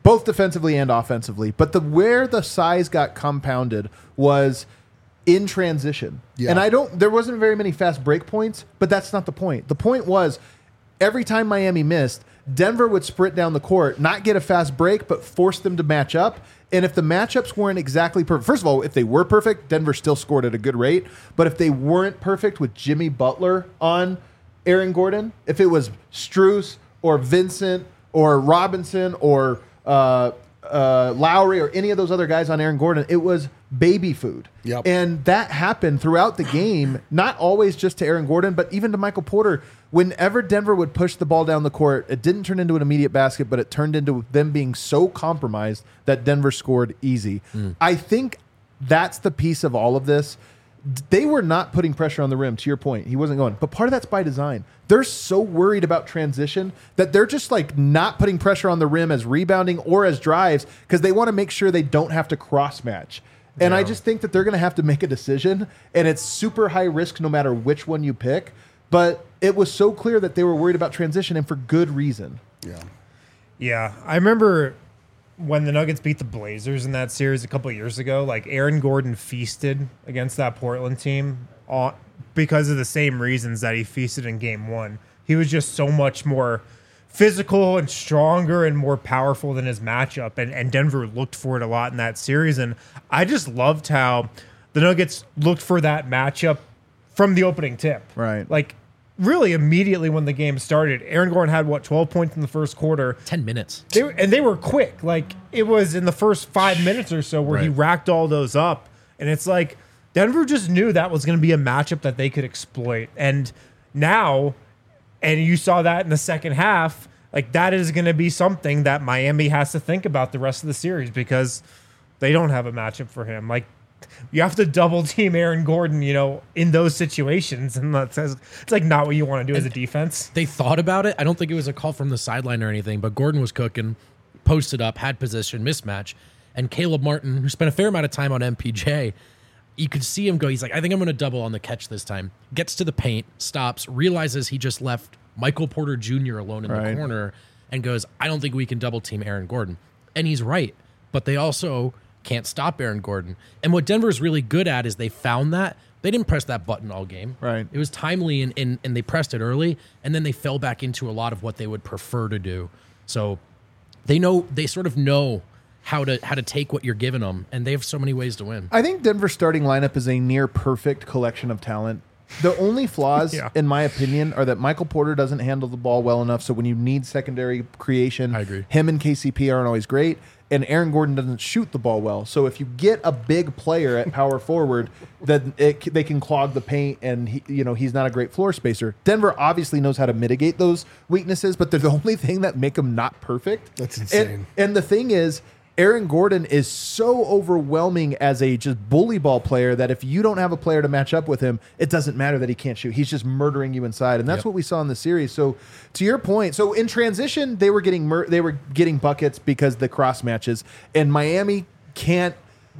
both defensively and offensively. But the where the size got compounded was in transition. Yeah. And I don't, there wasn't very many fast break points, but that's not the point. The point was every time Miami missed, Denver would sprint down the court, not get a fast break, but force them to match up. And if the matchups weren't exactly perfect, first of all, if they were perfect, Denver still scored at a good rate. But if they weren't perfect with Jimmy Butler on Aaron Gordon, if it was Strus or Vincent or Robinson or uh, uh, Lowry or any of those other guys on Aaron Gordon, it was baby food. Yep. And that happened throughout the game, not always just to Aaron Gordon, but even to Michael Porter. Whenever Denver would push the ball down the court, it didn't turn into an immediate basket, but it turned into them being so compromised that Denver scored easy. Mm. I think that's the piece of all of this. They were not putting pressure on the rim, to your point. He wasn't going. But part of that's by design. They're so worried about transition that they're just like not putting pressure on the rim as rebounding or as drives because they want to make sure they don't have to cross match. And yeah. I just think that they're going to have to make a decision, and it's super high risk no matter which one you pick. But it was so clear that they were worried about transition, and for good reason. Yeah. Yeah. I remember when the Nuggets beat the Blazers in that series a couple of years ago, like Aaron Gordon feasted against that Portland team on, because of the same reasons that he feasted in game one. He was just so much more physical and stronger and more powerful than his matchup. And, and Denver looked for it a lot in that series. And I just loved how the Nuggets looked for that matchup from the opening tip. Right. Like, really immediately when the game started, Aaron Gordon had, what, twelve points in the first quarter. ten minutes. They were, and they were quick. Like, it was in the first five minutes or so where right. he racked all those up. And it's like, Denver just knew that was going to be a matchup that they could exploit. And now, and you saw that in the second half, like, that is going to be something that Miami has to think about the rest of the series because they don't have a matchup for him. Like, you have to double team Aaron Gordon, you know, in those situations. And that's, it's like not what you want to do as a defense. They thought about it. I don't think it was a call from the sideline or anything, but Gordon was cooking, posted up, had position, mismatch. And Caleb Martin, who spent a fair amount of time on M P J, you could see him go, he's like, I think I'm going to double on the catch this time. Gets to the paint, stops, realizes he just left Michael Porter Junior alone in right. the corner and goes, I don't think we can double team Aaron Gordon. And he's right. But they also can't stop Aaron Gordon. And what Denver's really good at is they found that. They didn't press that button all game. Right. It was timely and, and, and they pressed it early, and then they fell back into a lot of what they would prefer to do. So they know, they sort of know how to how to take what you're giving them, and they have so many ways to win. I think Denver's starting lineup is a near perfect collection of talent. The only flaws, Yeah. in my opinion, are that Michael Porter doesn't handle the ball well enough. So when you need secondary creation, I agree. him and K C P aren't always great. And Aaron Gordon doesn't shoot the ball well. So if you get a big player at power forward, then it, they can clog the paint, and he, you know he's not a great floor spacer. Denver obviously knows how to mitigate those weaknesses, but they're the only thing that make them not perfect. That's insane. And, and the thing is, Aaron Gordon is so overwhelming as a just bully ball player that if you don't have a player to match up with him, it doesn't matter that he can't shoot. He's just murdering you inside, and that's Yep. what we saw in the series. So, to your point, so in transition, they were getting mur- they were getting buckets because the cross matches, and Miami can't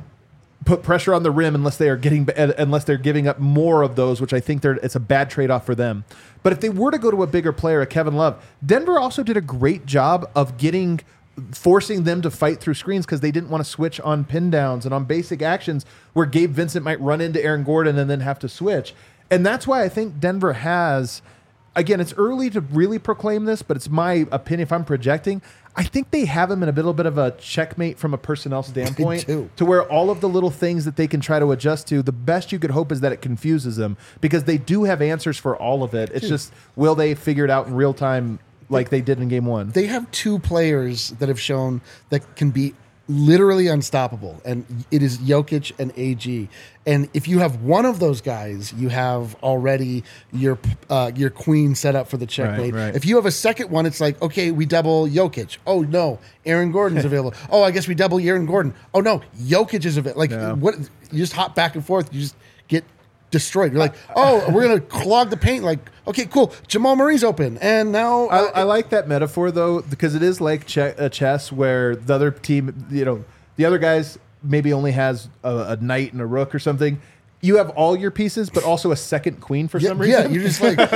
put pressure on the rim unless they are getting unless they're giving up more of those, which I think they're it's a bad trade off for them. But if they were to go to a bigger player, a Kevin Love, Denver also did a great job of getting. forcing them to fight through screens because they didn't want to switch on pin downs and on basic actions where Gabe Vincent might run into Aaron Gordon and then have to switch. And that's why I think Denver has, again, it's early to really proclaim this, but it's my opinion if I'm projecting, I think they have him in a little bit of a checkmate from a personnel standpoint too. to where all of the little things that they can try to adjust to, the best you could hope is that it confuses them because they do have answers for all of it. It's Dude. just, will they figure it out in real time like they did in game one? They have two players that have shown that can be literally unstoppable, and it is Jokic and A G. And if you have one of those guys, you have already your uh, your queen set up for the checkmate. right. If you have a second one, it's like, okay, we double Jokic. Oh no, Aaron Gordon's available. Oh, I guess we double Aaron Gordon. Oh no, Jokic is available. Like Yeah. what? You just hop back and forth. You just get destroyed. You're like, oh, we're gonna clog the paint. Like, okay, cool. Jamal Murray's open, and now I, I like that metaphor though, because it is like che- a chess where the other team, you know, the other guys maybe only has a, a knight and a rook or something. you have all your pieces, but also a second queen for Yeah, some reason. yeah, you're just like,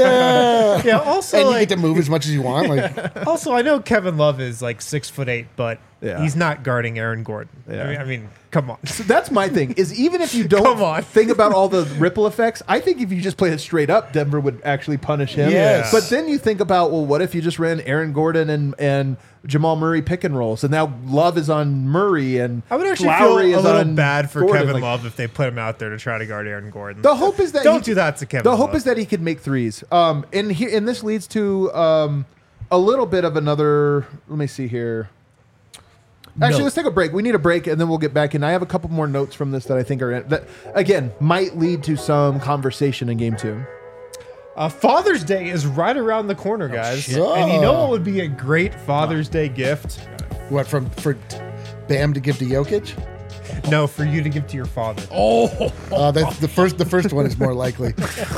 yeah. Yeah. Also, And you like, get to move as much as you want. Like, also, I know Kevin Love is like six foot eight, but Yeah. he's not guarding Aaron Gordon. Yeah. I mean, I mean, come on. So that's my thing. Is even if you don't Come on. think about all the ripple effects, I think if you just played it straight up, Denver would actually punish him. Yes. But then you think about, well, what if you just ran Aaron Gordon and and Jamal Murray pick and roll? So now Love is on Murray and I would actually Lowry feel a is little on bad for Gordon. Kevin Like, Love if they put him out there to try to guard Aaron Gordon. The hope is that Don't he- do that to Kevin The Love. hope is that he could make threes. Um, and here, and this leads to um, a little bit of another. Let me see here. Actually, No. let's take a break. We need a break, and then we'll get back in. I have a couple more notes from this that I think are that again might lead to some conversation in game two. Uh, Father's Day is right around the corner, guys. shit. And you know what would be a great Father's Day gift? what from for Bam to give to Jokic? No, for you to give to your father. Oh, Uh, that's the first. The first one is more likely.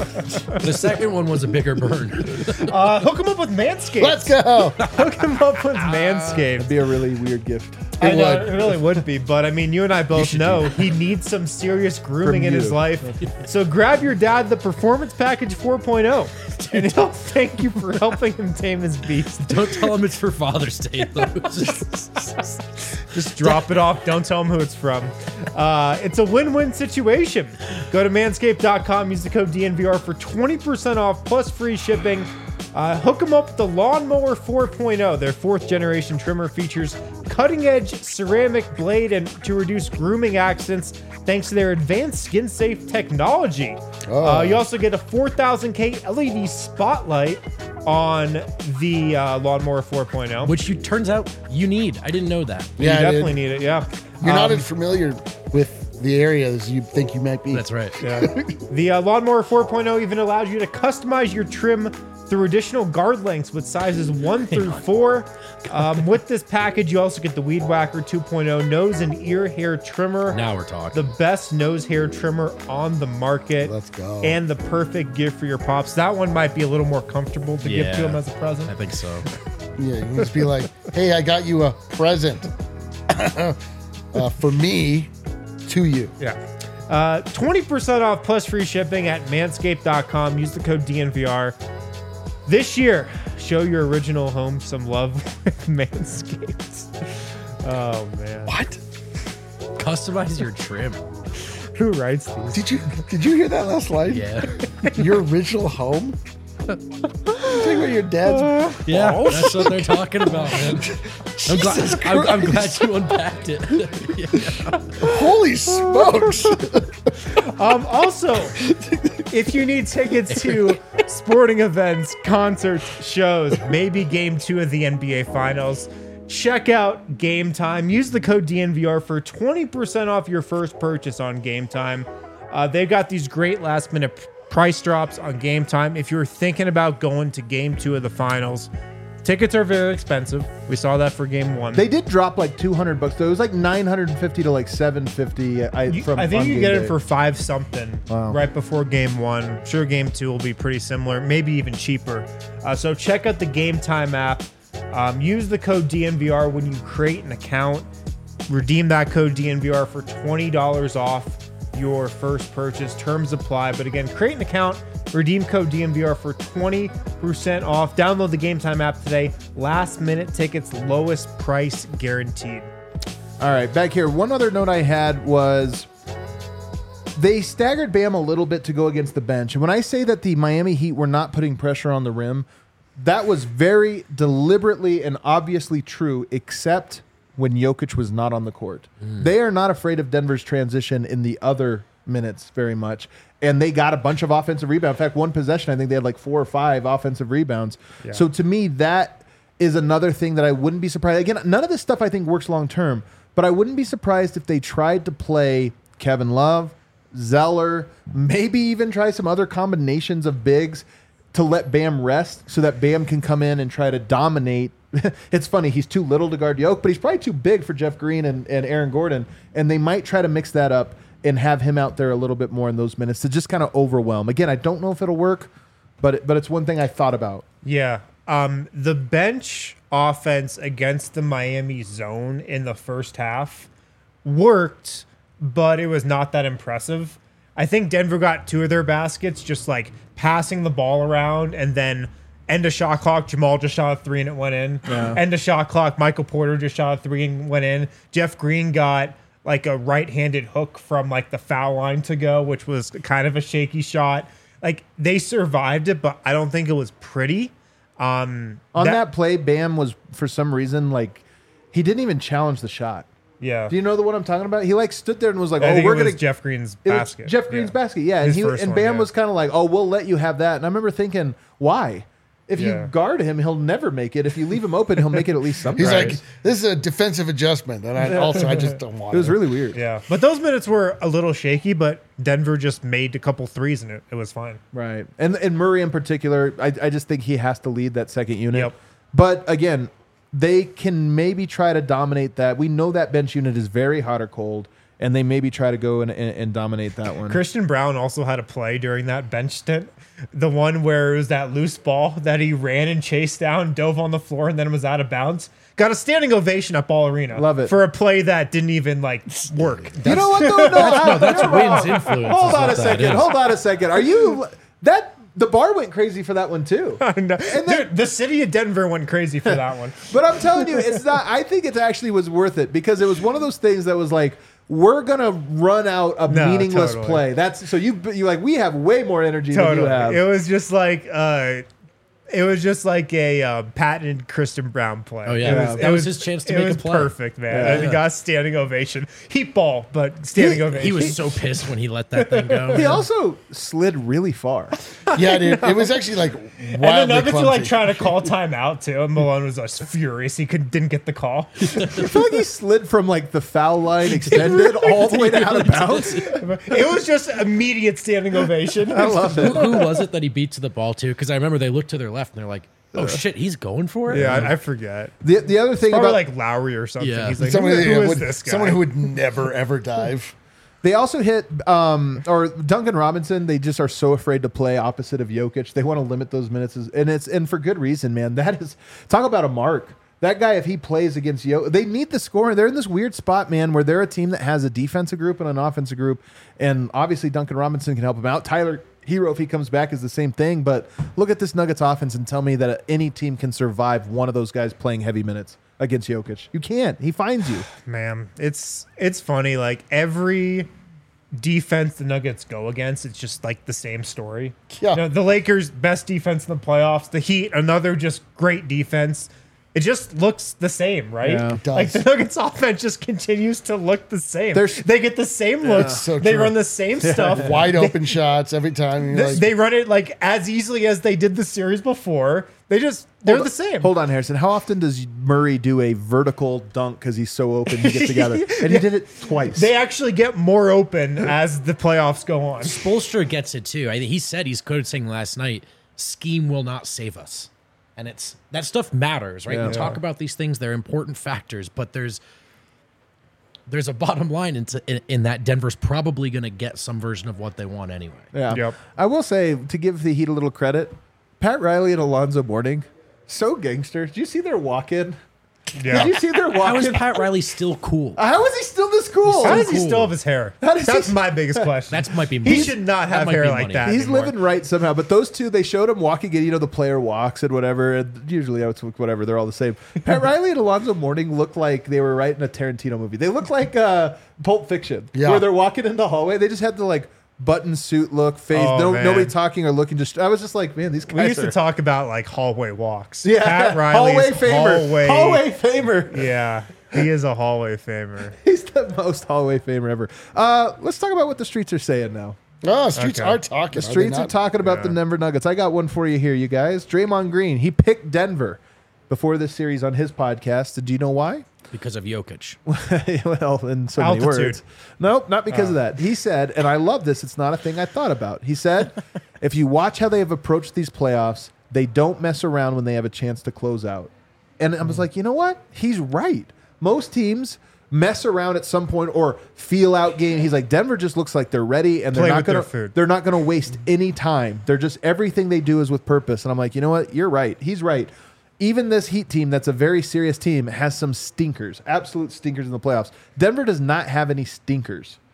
the second one was a bigger burn. Uh, hook him up with Manscaped. Let's go. Hook him up with Manscaped. It'd be a really weird gift. I know, would. it really would be, but I mean, you and I both know he needs some serious grooming From in his you. life. So grab your dad the Performance Package four point oh, and he'll thank you for helping him tame his beast. Don't tell him it's for Father's Day, though. Just- Just drop it off. Don't tell him who it's from. Uh, it's a win-win situation. Go to manscaped dot com. Use the code D N V R for twenty percent off plus free shipping. Uh, hook them up with the Lawnmower four point oh. Their fourth generation trimmer features cutting-edge ceramic blade and to reduce grooming accidents thanks to their advanced skin-safe technology. Oh. Uh, you also get a four thousand K L E D spotlight on the uh, Lawnmower four point oh. Which you turns out you need. I didn't know that. You Yeah, definitely dude. need it, yeah. You're not Um, as familiar with the area as you think you might be. That's right. Yeah. The uh, Lawnmower four point oh even allows you to customize your trim through additional guard lengths with sizes one through four. Um, with this package, you also get the Weed Whacker two point oh nose and ear hair trimmer. Now we're talking. The best nose hair trimmer on the market. Let's go. And the perfect gift for your pops. That one might be a little more comfortable to give to Yeah. him as a present. I think so. Yeah, you can just be like, "Hey, I got you a present uh, for me, to you." Yeah. Uh, twenty percent off plus free shipping at manscaped dot com. Use the code D N V R. This year, show your original home some love with Manscaped. Oh, man. What? Customize your trim. Who writes these? Did you did you hear that last line? Yeah. Your original home. You talking about your dad's? Yeah. That's what they're talking about, man. I'm glad, I'm, I'm glad you unpacked it. Yeah. Holy smokes! Um, also, if you need tickets to sporting events, concerts, shows, maybe game two of the N B A Finals, check out Game Time. Use the code D N V R for twenty percent off your first purchase on Game Time. Uh, they've got these great last minute p- price drops on Game Time. If you're thinking about going to game two of the finals, tickets are very expensive. We saw that for game one. They did drop like two hundred bucks, though. It was like nine hundred fifty to like seven fifty. I, You- from I think on you game get day. it for five something Wow. right before game one. I'm sure game two will be pretty similar, maybe even cheaper. Uh, so check out the Game Time app. Um, use the code D N V R when you create an account. Redeem that code D N V R for twenty dollars off your first purchase. Terms apply. But again, create an account. Redeem code D N V R for twenty percent off. Download the Game Time app today. Last minute tickets, lowest price guaranteed. All right, back here. One other note I had was they staggered Bam a little bit to go against the bench. And when I say that the Miami Heat were not putting pressure on the rim, that was very deliberately and obviously true, except when Jokic was not on the court. They are not afraid of Denver's transition in the other minutes very much. And they got a bunch of offensive rebounds. In fact, one possession, I think they had like four or five offensive rebounds. Yeah. So to me, that is another thing that I wouldn't be surprised. Again, none of this stuff I think works long term, but I wouldn't be surprised if they tried to play Kevin Love, Zeller, maybe even try some other combinations of bigs to let Bam rest so that Bam can come in and try to dominate. It's funny, he's too little to guard Yoke, but he's probably too big for Jeff Green and, and Aaron Gordon, and they might try to mix that up and have him out there a little bit more in those minutes to just kind of overwhelm. Again, I don't know if it'll work, but it, but it's one thing I thought about. Yeah. Um, the bench offense against the Miami zone in the first half worked, but it was not that impressive. I think Denver got two of their baskets just like passing the ball around, and then end of shot clock, Jamal just shot a three and it went in. Yeah. End of shot clock, Michael Porter just shot a three and went in. Jeff Green got like a right-handed hook from like the foul line to go, which was kind of a shaky shot. Like they survived it, but I don't think it was pretty. Um, On that, play, Bam was for some reason like he didn't even challenge the shot. yeah. Do you know the one I'm talking about? He like stood there and was like, I "Oh, think we're it was gonna." Jeff Green's It was basket. Jeff Green's Yeah. basket, yeah. And His he first and one, Bam yeah. was kind of like, "Oh, we'll let you have that." And I remember thinking, "Why? If Yeah. you guard him, he'll never make it. If you leave him open, he'll make it at least sometimes." He's like, this is a defensive adjustment, and I also I just don't want "It was really weird." Yeah, but those minutes were a little shaky, but Denver just made a couple threes and it, it was fine. Right. And and Murray in particular, I, I just think he has to lead that second unit. Yep. But again, they can maybe try to dominate that. We know that bench unit is very hot or cold, and they maybe try to go and, and, and dominate that one. Christian Brown also had a play during that bench stint. The one where it was that loose ball that he ran and chased down, dove on the floor, and then was out of bounds. Got a standing ovation at Ball Arena. Love it. For a play that didn't even like work. You know what? though? No, no, That's Wynn's influence. Hold is on what a that second. is. Hold on a second. Are you that the bar went crazy for that one too? And Dude, the city of Denver went crazy for that one. But I'm telling you, it's not. I think it actually was worth it because it was one of those things that was like, we're gonna run out a No, meaningless totally. play. That's so you you like we have way more energy than Totally. you have. It was just like uh it was just like a uh, patented Christian Brown play. Oh, yeah. It Yeah. was, That it was his chance to it make a was play. perfect, man. Yeah. And he got a standing ovation. Heat ball, but standing He- ovation. He was so pissed when he let that thing go. He also slid really far. Yeah, dude. It was actually like and the wildly Nuggets were clumsy. like trying to call timeout too, and Malone was just furious. He could, didn't get the call. I feel like he slid from like the foul line extended all the way to out of bounds. It was just immediate standing ovation. I love Who, it. who was it that he beat to the ball to? Because I remember they looked to their left and they're like, "Oh shit, he's going for it." Yeah, I, I forget. The the other thing Probably about like Lowry or something. Yeah. He's like, Someone, who, who who is would, this guy? someone who would never ever dive. they also hit um or Duncan Robinson. They just are so afraid to play opposite of Jokic. They want to limit those minutes, and it's and for good reason, man. That is talk about a mark. That guy, if he plays against Jokic, they need the scoring. They're in this weird spot, man, where they're a team that has a defensive group and an offensive group, and obviously Duncan Robinson can help them out. Tyler Hero, if he comes back, is the same thing. But look at this Nuggets offense and tell me that any team can survive one of those guys playing heavy minutes against Jokic. You can't. He finds you. Man, it's it's funny. Like every defense the Nuggets go against, it's just like the same story. Yeah. You know, the Lakers best defense in the playoffs. The Heat, another just great defense. It just looks the same, right? Yeah. It Like the does. Nuggets offense just continues to look the same. There's- they get the same looks. so they true. run the same stuff. Wide open shots every time. You're They, like, they run it like as easily as they did the series before. They just they're Hold the on- same. Hold on, Harrison. How often does Murray do a vertical dunk because he's so open he gets together? And he did it twice. They actually get more open as the playoffs go on. Spoelstra gets it too. I think he said he's quoted saying last night, "Scheme will not save us," and it's that stuff matters, right? Yeah. We talk about these things; they're important factors, but there's there's a bottom line into in, in that Denver's probably going to get some version of what they want anyway. Yeah. Yep. I will say, to give the Heat a little credit, Pat Riley and Alonzo Mourning, so gangster. Did you see their walk-in? Yeah. Did you see their How is walk-in? Pat Riley still cool? How is he still this cool? How does he cool. still have his hair? How does That's he- my biggest question. That might be he money. should not That have might hair be like money. that. He's anymore. living right somehow. But those two, they showed him walking in, you know, the player walks and whatever. And usually, it's whatever. They're all the same. Pat Riley and Alonzo Mourning look like they were right in a Tarantino movie. They look like uh, Pulp Fiction, Yeah. where they're walking in the hallway. They just had the like button suit look, face. Oh, no, man. nobody talking or looking. Just I was just like, man, these guys We used are. to talk about like hallway walks. yeah, Pat Riley's hallway famer. hallway. Hallway famer. Yeah, he is a hallway famer. He's the most hallway famer ever. Uh, let's talk about what the streets are saying now. oh, streets Okay. are talking. The streets are talking about the Yeah. Denver Nuggets. I got one for you here, you guys. Draymond Green, he picked Denver before this series on his podcast. Do you know why? because of Jokic. Well, in so many Altitude. words. Nope, not because of that. He said, and I love this, it's not a thing I thought about. He said, if you watch how they have approached these playoffs, they don't mess around when they have a chance to close out. And I was like, you know what? He's right. Most teams mess around at some point or feel out game. He's like, Denver just looks like they're ready and they're Play not with their gonna food. they're not gonna waste any time. They're just everything they do is with purpose. And I'm like, you know what? You're right. He's right. Even this Heat team, that's a very serious team, has some stinkers, absolute stinkers in the playoffs. Denver does not have any stinkers.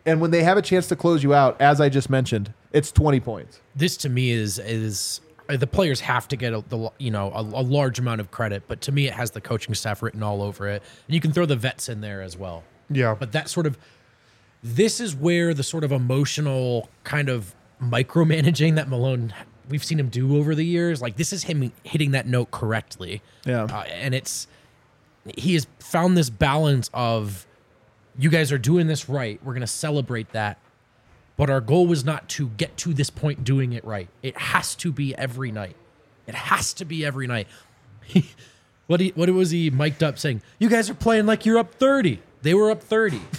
And when they have a chance to close you out, as I just mentioned, it's twenty points. This to me is is uh, the players have to get a, the you know a, a large amount of credit, but to me it has the coaching staff written all over it. And you can throw the vets in there as well. Yeah. But that sort of this is where the sort of emotional kind of micromanaging that Malone we've seen him do over the years, like this is him hitting that note correctly. Yeah. Uh, and it's he has found this balance of you guys are doing this right. We're going to celebrate that. But our goal was not to get to this point doing it right. It has to be every night. It has to be every night. what he, what was he mic'd up saying? You guys are playing like you're up thirty. They were up thirty. he,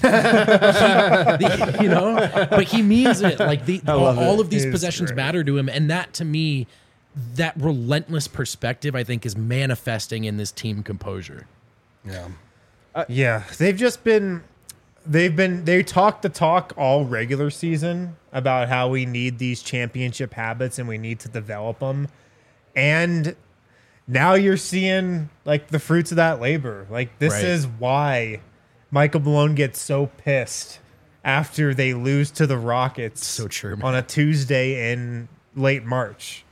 the, you know, but he means it. Like the, all, all of these possessions great. matter to him. And that to me, that relentless perspective, I think, is manifesting in this team composure. Yeah. Uh, yeah. They've just been... They've been they talk the talk all regular season about how we need these championship habits and we need to develop them. And now you're seeing like the fruits of that labor. Like this Right. is why Michael Malone gets so pissed after they lose to the Rockets So true, man. on a Tuesday in late March.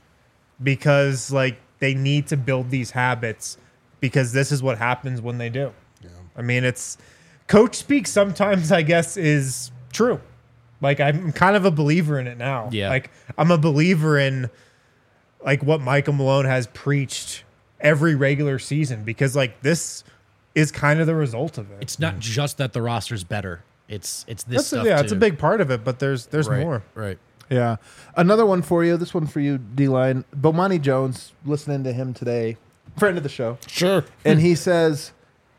Because like they need to build these habits because this is what happens when they do. Yeah. I mean, it's coach speak sometimes, I guess, is true. Like, I'm kind of a believer in it now. Yeah. Like, I'm a believer in, like, what Michael Malone has preached every regular season because, like, this is kind of the result of it. It's not just that the roster's better. It's it's this That's stuff a, yeah, too. it's a big part of it, but there's there's right, more. Right. Yeah. Another one for you. This one for you, D-Line. Bomani Jones, listening to him today, friend of the show. Sure. And he says,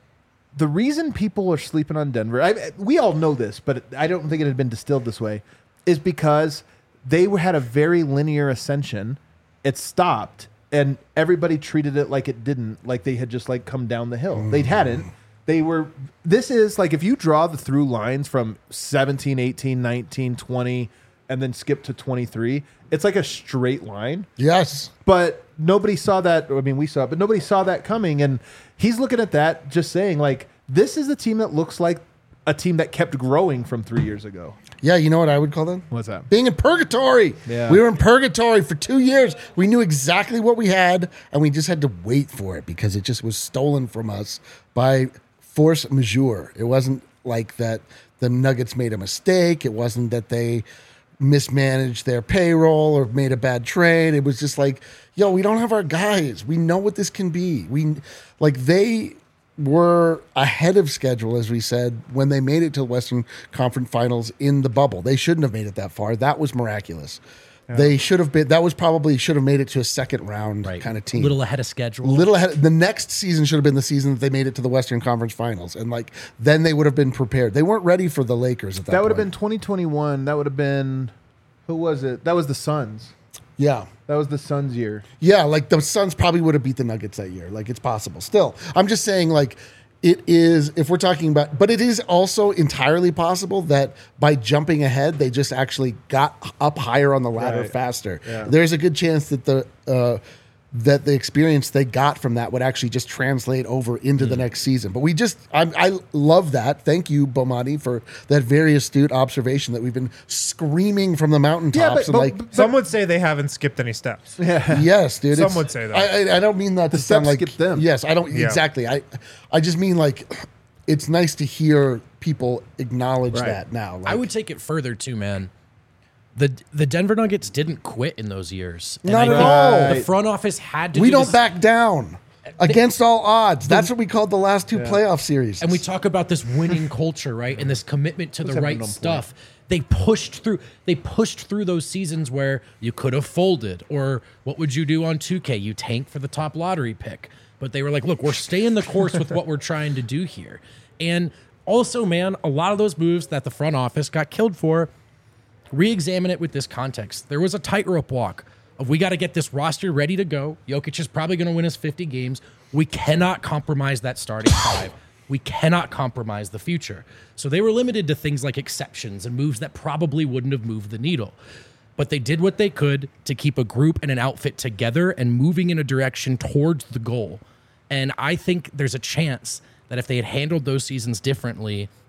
the reason people are sleeping on Denver, I, we all know this, but I don't think it had been distilled this way, is because they had a very linear ascension. It stopped, and everybody treated it like it didn't, like they had just like come down the hill. They hadn't. They were, this is like if you draw the through lines from seventeen, eighteen, nineteen, twenty, and then skip to twenty-three, it's like a straight line. Yes. But nobody saw that. I mean, we saw it, but nobody saw that coming. And he's looking at that, just saying, like, this is a team that looks like a team that kept growing from three years ago. Yeah, you know what I would call them? What's that? Being in purgatory. Yeah. We were in purgatory for two years. We knew exactly what we had, and we just had to wait for it because it just was stolen from us by force majeure. It wasn't like that the Nuggets made a mistake. It wasn't that they mismanaged their payroll or made a bad trade. It was just like, yo, we don't have our guys. We know what this can be. We like they were ahead of schedule, as we said, when they made it to the Western Conference Finals in the bubble. They shouldn't have made it that far. That was miraculous. Yeah. They should have been. That was probably should have made it to a second round Right. kind of team. A little ahead of schedule. Little ahead. The next season should have been the season that they made it to the Western Conference Finals, and like then they would have been prepared. They weren't ready for the Lakers at that. That would have point. been twenty twenty-one. That would have been, who was it? That was the Suns. Yeah. That was the Suns year. Yeah, like the Suns probably would have beat the Nuggets that year. Like it's possible. Still, I'm just saying, like it is. If we're talking about, but it is also entirely possible that by jumping ahead, they just actually got up higher on the ladder Right. faster. Yeah. There's a good chance that the uh, that the experience they got from that would actually just translate over into Hmm. the next season. But we just, I, I love that. Thank you, Bomani, for that very astute observation that we've been screaming from the mountaintops. Yeah, but- and but- like, but- Some would say they haven't skipped any steps. yes, dude. Some it's- would say that. I, I, I don't mean that to The sound steps like skip them. Yes, I don't Yeah. exactly. I, I just mean like, it's nice to hear people acknowledge Right. that now. Like, I would take it further too, man. The the Denver Nuggets didn't quit in those years. And Not I at think all. The front office had to. we do don't this- back down against all odds. That's what we called the last two playoff series. And we talk about this winning culture, right? And this commitment to the having right on stuff. They pushed through they pushed through those seasons where you could have folded, or what would you do on two K? You tank for the top lottery pick. But they were like, look, we're staying the course with what we're trying to do here. And also, man, a lot of those moves that the front office got killed for, re-examine it with this context. There was a tightrope walk of we got to get this roster ready to go. Jokic is probably going to win us fifty games. We cannot compromise that starting five. We cannot compromise the future. So they were limited to things like exceptions and moves that probably wouldn't have moved the needle. But they did what they could to keep a group and an outfit together and moving in a direction towards the goal. And I think there's a chance that if they had handled those seasons differently,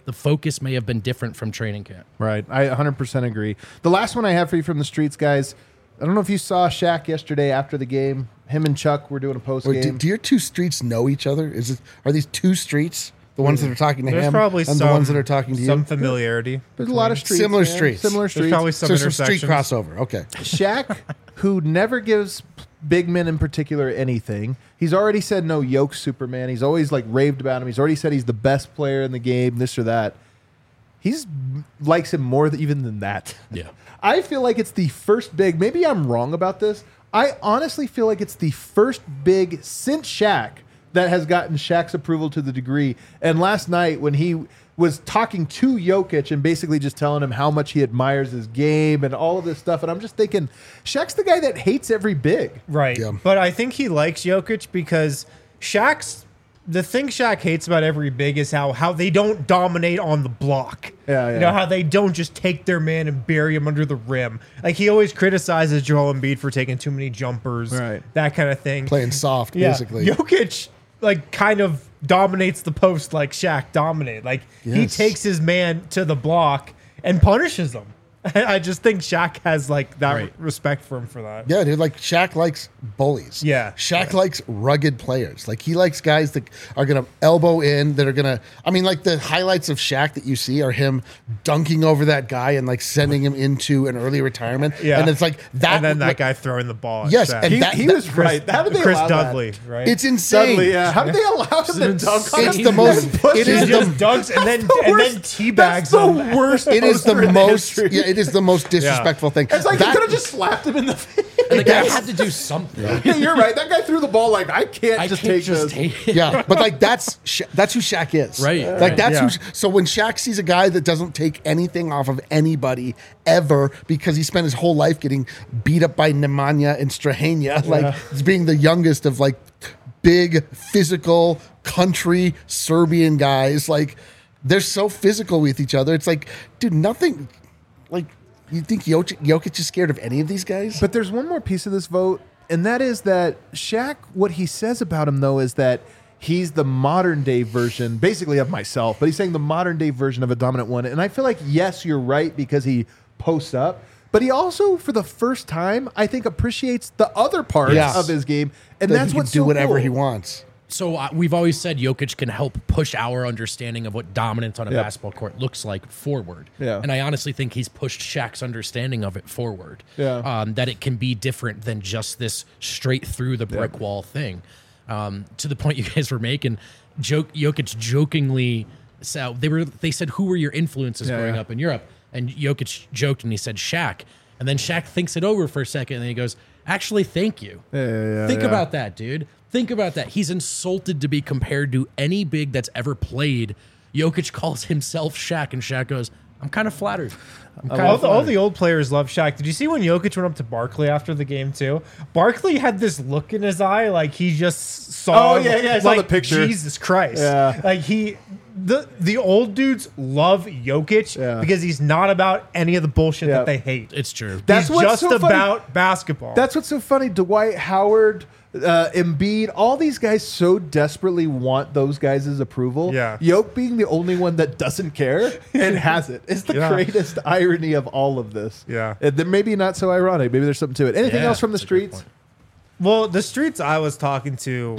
the focus may have been different from training camp. Right. I one hundred percent agree. The last one I have for you from the streets, guys. I don't know if you saw Shaq yesterday after the game. Him and Chuck were doing a post Wait, do, game. do your two streets know each other? Is it are these two streets? The ones that are talking to There's him probably and some the ones that are talking to some you? familiarity. There's a lot of streets. Similar man. streets. Similar There's streets. probably some So some street intersections. crossover. Okay. Shaq, who never gives big men in particular anything. He's already said no Yoke Superman. He's always like raved about him. He's already said he's the best player in the game, this or that. He's likes him more than, even than that. Yeah. I feel like it's the first big, maybe I'm wrong about this. I honestly feel like it's the first big since Shaq that has gotten Shaq's approval to the degree. And last night when he was talking to Jokic and basically just telling him how much he admires his game and all of this stuff. And I'm just thinking, Shaq's the guy that hates every big. Right. Yeah. But I think he likes Jokic because Shaq's the thing Shaq hates about every big is how how they don't dominate on the block. Yeah, yeah. You know, how they don't just take their man and bury him under the rim. Like he always criticizes Joel Embiid for taking too many jumpers, Right. that kind of thing. Playing soft, Yeah. basically. Jokic like kind of dominates the post like Shaq dominated. Like he Yes. takes his man to the block and punishes him. I just think Shaq has like that Right. respect for him for that. Yeah, dude. Like Shaq likes bullies. Yeah. Shaq likes rugged players. Like he likes guys that are gonna elbow in. That are gonna. I mean, like the highlights of Shaq that you see are him dunking over that guy and like sending him into an early retirement. Yeah. And it's like that. And then that like, guy throwing the ball. At Yes, Shaq. and He, that- he that- was right. How did they Chris allow Dudley, that? right? It's insane. Dudley, yeah. How did they allow him to dunk on It's him? the most. It he is just the. dunks and then the and worst- then teabags That's the him. worst. It is the poster in most. history. Yeah, it is the most disrespectful thing. It's like That- he could have just slapped him in the face. And the guy Yes. had to do something. Yeah, you're right. That guy threw the ball like I can't I just can't take just this. take it. Yeah, but like that's Sha- that's who Shaq is, Right, Like right. that's Yeah. who. So when Shaq sees a guy that doesn't take anything off of anybody ever because he spent his whole life getting beat up by Nemanja and Strahania, like being the youngest of like big physical country Serbian guys, like they're so physical with each other. It's like, dude, nothing. Like you think Jokic, Jokic is scared of any of these guys? But there's one more piece of this vote, and that is that Shaq, what he says about him, though, is that he's the modern day version, basically, of myself, but he's saying the modern day version of a dominant one. And I feel like, yes, you're right, because he posts up, but he also, for the first time, I think appreciates the other parts Yes. of his game. And That that's he can what's do so whatever cool. he wants. So uh, we've always said Jokic can help push our understanding of what dominance on a Yep. basketball court looks like forward. Yeah. And I honestly think he's pushed Shaq's understanding of it forward. Yeah. Um, that it can be different than just this straight through the brick wall thing. Um, to the point you guys were making, joke Jokic jokingly so they were they said, who were your influences Yeah, growing yeah. up in Europe? And Jokic joked and he said Shaq. And then Shaq thinks it over for a second and then he goes, actually, thank you. Yeah, yeah, yeah, Think yeah. about that, dude. Think about that. He's insulted to be compared to any big that's ever played. Jokic calls himself Shaq, and Shaq goes, I'm kind of flattered. I'm kind All of the, all flattered. the old players love Shaq. Did you see when Jokic went up to Barkley after the game too? Barkley had this look in his eye, like he just saw. Oh, yeah, yeah, I saw like, the picture. Jesus Christ! Yeah. Like he, the the old dudes love Jokic Yeah. because he's not about any of the bullshit Yeah. that they hate. It's true. That's he's what's just so funny. about basketball. That's what's so funny. Dwight Howard, uh, Embiid, all these guys so desperately want those guys' approval. Yeah. Yoke being the only one that doesn't care and has it. It's the Yeah. greatest irony of all of this. Yeah. Uh, then maybe not so ironic. Maybe there's something to it. Anything Yeah, else from the that's a great streets? point. well, the streets I was talking to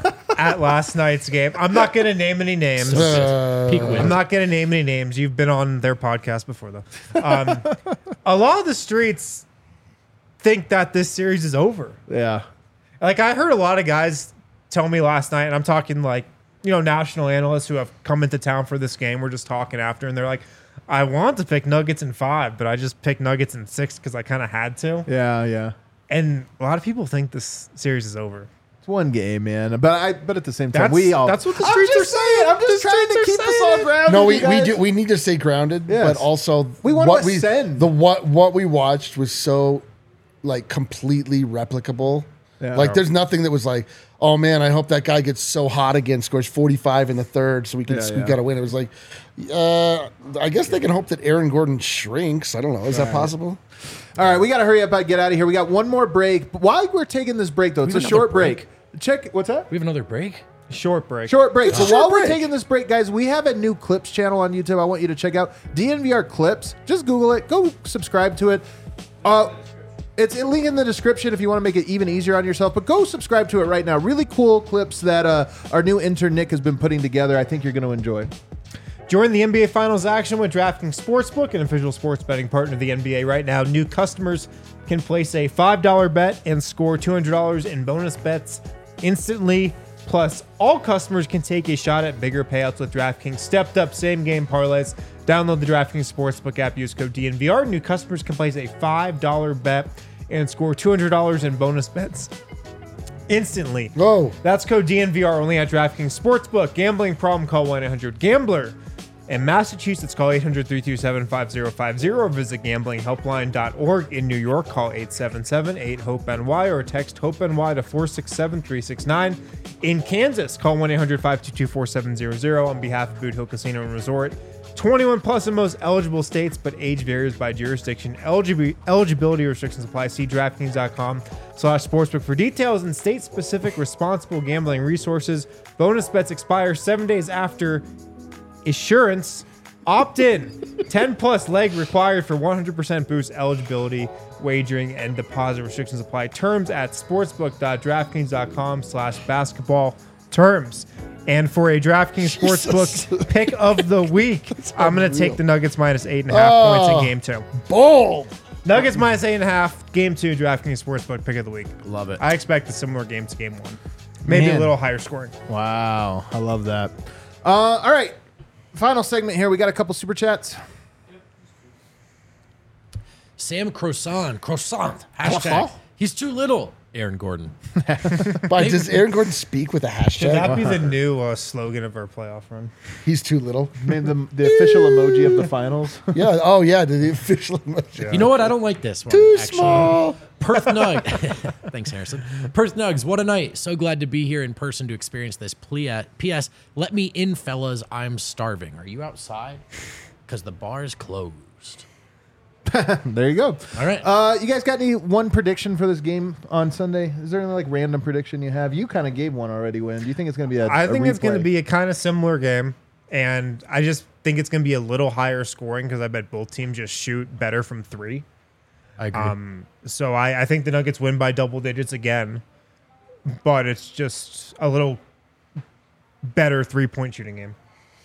at last night's game. I'm not going to name any names. Uh, Peak win. I'm not going to name any names. You've been on their podcast before, though. Um, a lot of the streets think that this series is over. Yeah. Like, I heard a lot of guys tell me last night, and I'm talking like, you know, national analysts who have come into town for this game. We're just talking after, and they're like, I want to pick Nuggets in five, but I just picked Nuggets in six because I kind of had to. Yeah, yeah. And a lot of people think this series is over. It's one game, man. But I but at the same time, That's- we all that's what the I'm streets just are saying. I'm just The trying to streets keep are us all saying it. grounded. No, we, you we guys. do we need to stay grounded, Yes. but also We want what to we ascend. the what what we watched was so like completely replicable. Yeah. Like there's nothing that was like, oh man, I hope that guy gets so hot again, scores forty-five in the third, so we can Yeah, we yeah. got to win. It was like, uh, I guess they can hope that Aaron Gordon shrinks. I don't know. Is that possible? All right, we got to hurry up and get out of here. We got one more break. But while we're taking this break, though, it's a have short another break. Check what's that? We have another break? Short break. Short break. It's So a short while we're break. taking this break, guys, we have a new Clips channel on YouTube. I want you to check out D N V R Clips. Just Google it. Go subscribe to it. Uh, it's a link in the description if you want to make it even easier on yourself. But go subscribe to it right now. Really cool clips that uh, our new intern Nick has been putting together. I think you're going to enjoy. Join the N B A Finals action with DraftKings Sportsbook, an official sports betting partner of the N B A right now. New customers can place a five dollar bet and score two hundred dollars in bonus bets instantly. Plus, all customers can take a shot at bigger payouts with DraftKings stepped up same game parlays. Download the DraftKings Sportsbook app, use code D N V R. New customers can place a five dollar bet and score two hundred dollars in bonus bets instantly. Whoa. That's code D N V R only at DraftKings Sportsbook. Gambling problem, call one eight hundred gambler. In Massachusetts, call eight hundred, three two seven, five zero five zero or visit gambling helpline dot org. In New York, call eight seven seven, eight hope N Y or text HOPE-NY to four six seven, three six nine. In Kansas, call one eight hundred, five two two, four seven zero zero on behalf of Boot Hill Casino and Resort. twenty-one plus in most eligible states, but age varies by jurisdiction. Eligi- eligibility restrictions apply. See DraftKings.com slash sportsbook for details and state-specific responsible gambling resources. Bonus bets expire seven days after Assurance. Opt in. ten plus leg required for one hundred percent boost eligibility, wagering, and deposit restrictions apply. Terms at sportsbook.draftkings.com slash basketball terms. And for a DraftKings Sportsbook pick of the week, I'm going to take the Nuggets minus eight and a half Oh. points in game two. Bold. Nuggets minus eight and a half, game two, DraftKings Sportsbook pick of the week. Love it. I expect a similar game to game one. Maybe Man. a little higher scoring. Wow. I love that. Uh, all right. Final segment here. We got a couple super chats. Sam Croissant. Croissant. Hashtag. Croissant? He's too little. Aaron Gordon. But does Aaron Gordon speak with a Should hashtag? that be the new uh, slogan of our playoff run? He's too little. I mean, the, the official emoji of the finals. Yeah. Oh, yeah. The official. You know what? I don't like this one. Too actually. small. Perth Nug. Thanks, Harrison. Perth Nugs, what a night. So glad to be here in person to experience this. P S. Let me in, fellas. I'm starving. Are you outside? Because the bar is closed. There you go. All right. Uh, you guys got any one prediction for this game on Sunday? Is there any like random prediction you have? You kind of gave one already, Win. Do you think it's going to be a I a think it's going to replay? be a kind of similar game, and I just think it's going to be a little higher scoring because I bet both teams just shoot better from three. I agree. Um, so I, I think the Nuggets win by double digits again, but it's just a little better three-point shooting game.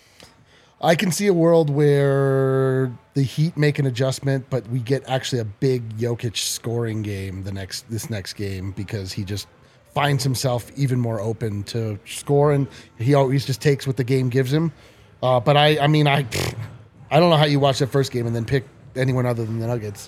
I can see a world where the Heat make an adjustment, but we get actually a big Jokic scoring game the next this next game because he just finds himself even more open to score, and he always just takes what the game gives him. Uh, but I, I mean, I, I don't know how you watch that first game and then pick anyone other than the Nuggets.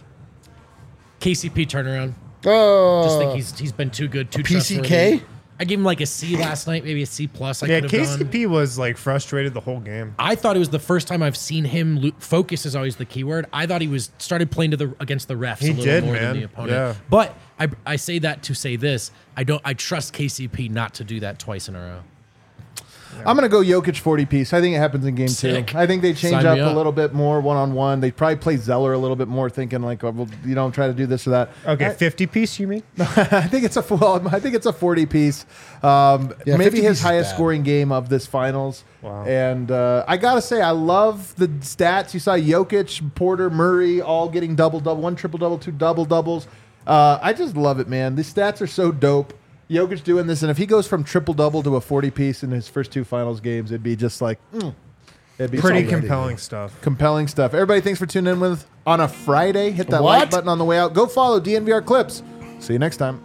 K C P turnaround. Oh, Just think he's he's been too good, too P C K? trustworthy. I gave him like a C last night, maybe a C plus. I Yeah, could have K C P gone. was like frustrated the whole game. I thought it was the first time I've seen him. Lo- focus is always the key word. I thought he was started playing to the against the refs He a little did, more man. than the opponent. Yeah. But I I say that to say this. I don't. I trust K C P not to do that twice in a row. I'm going to go Jokic forty piece. I think it happens in game Sick. two. I think they change Sign up me a up. little bit more one on one. They probably play Zeller a little bit more, thinking like, oh, well, you know, try to do this or that. Okay, I, fifty piece, you mean? I think it's a well, I think it's a forty piece. Um, Yeah, maybe fifty piece his is highest bad. scoring game of this finals. Wow. And uh, I gotta say, I love the stats. You saw Jokic, Porter, Murray all getting double double, one triple double, two double doubles. Uh, I just love it, man. These stats are so dope. Jokic doing this, and if he goes from triple double to a forty piece in his first two finals games, it'd be just like mm, it'd be Pretty so compelling stuff. compelling stuff. Everybody, thanks for tuning in with on a Friday. Hit that What? like button on the way out. Go follow D N V R Clips. See you next time.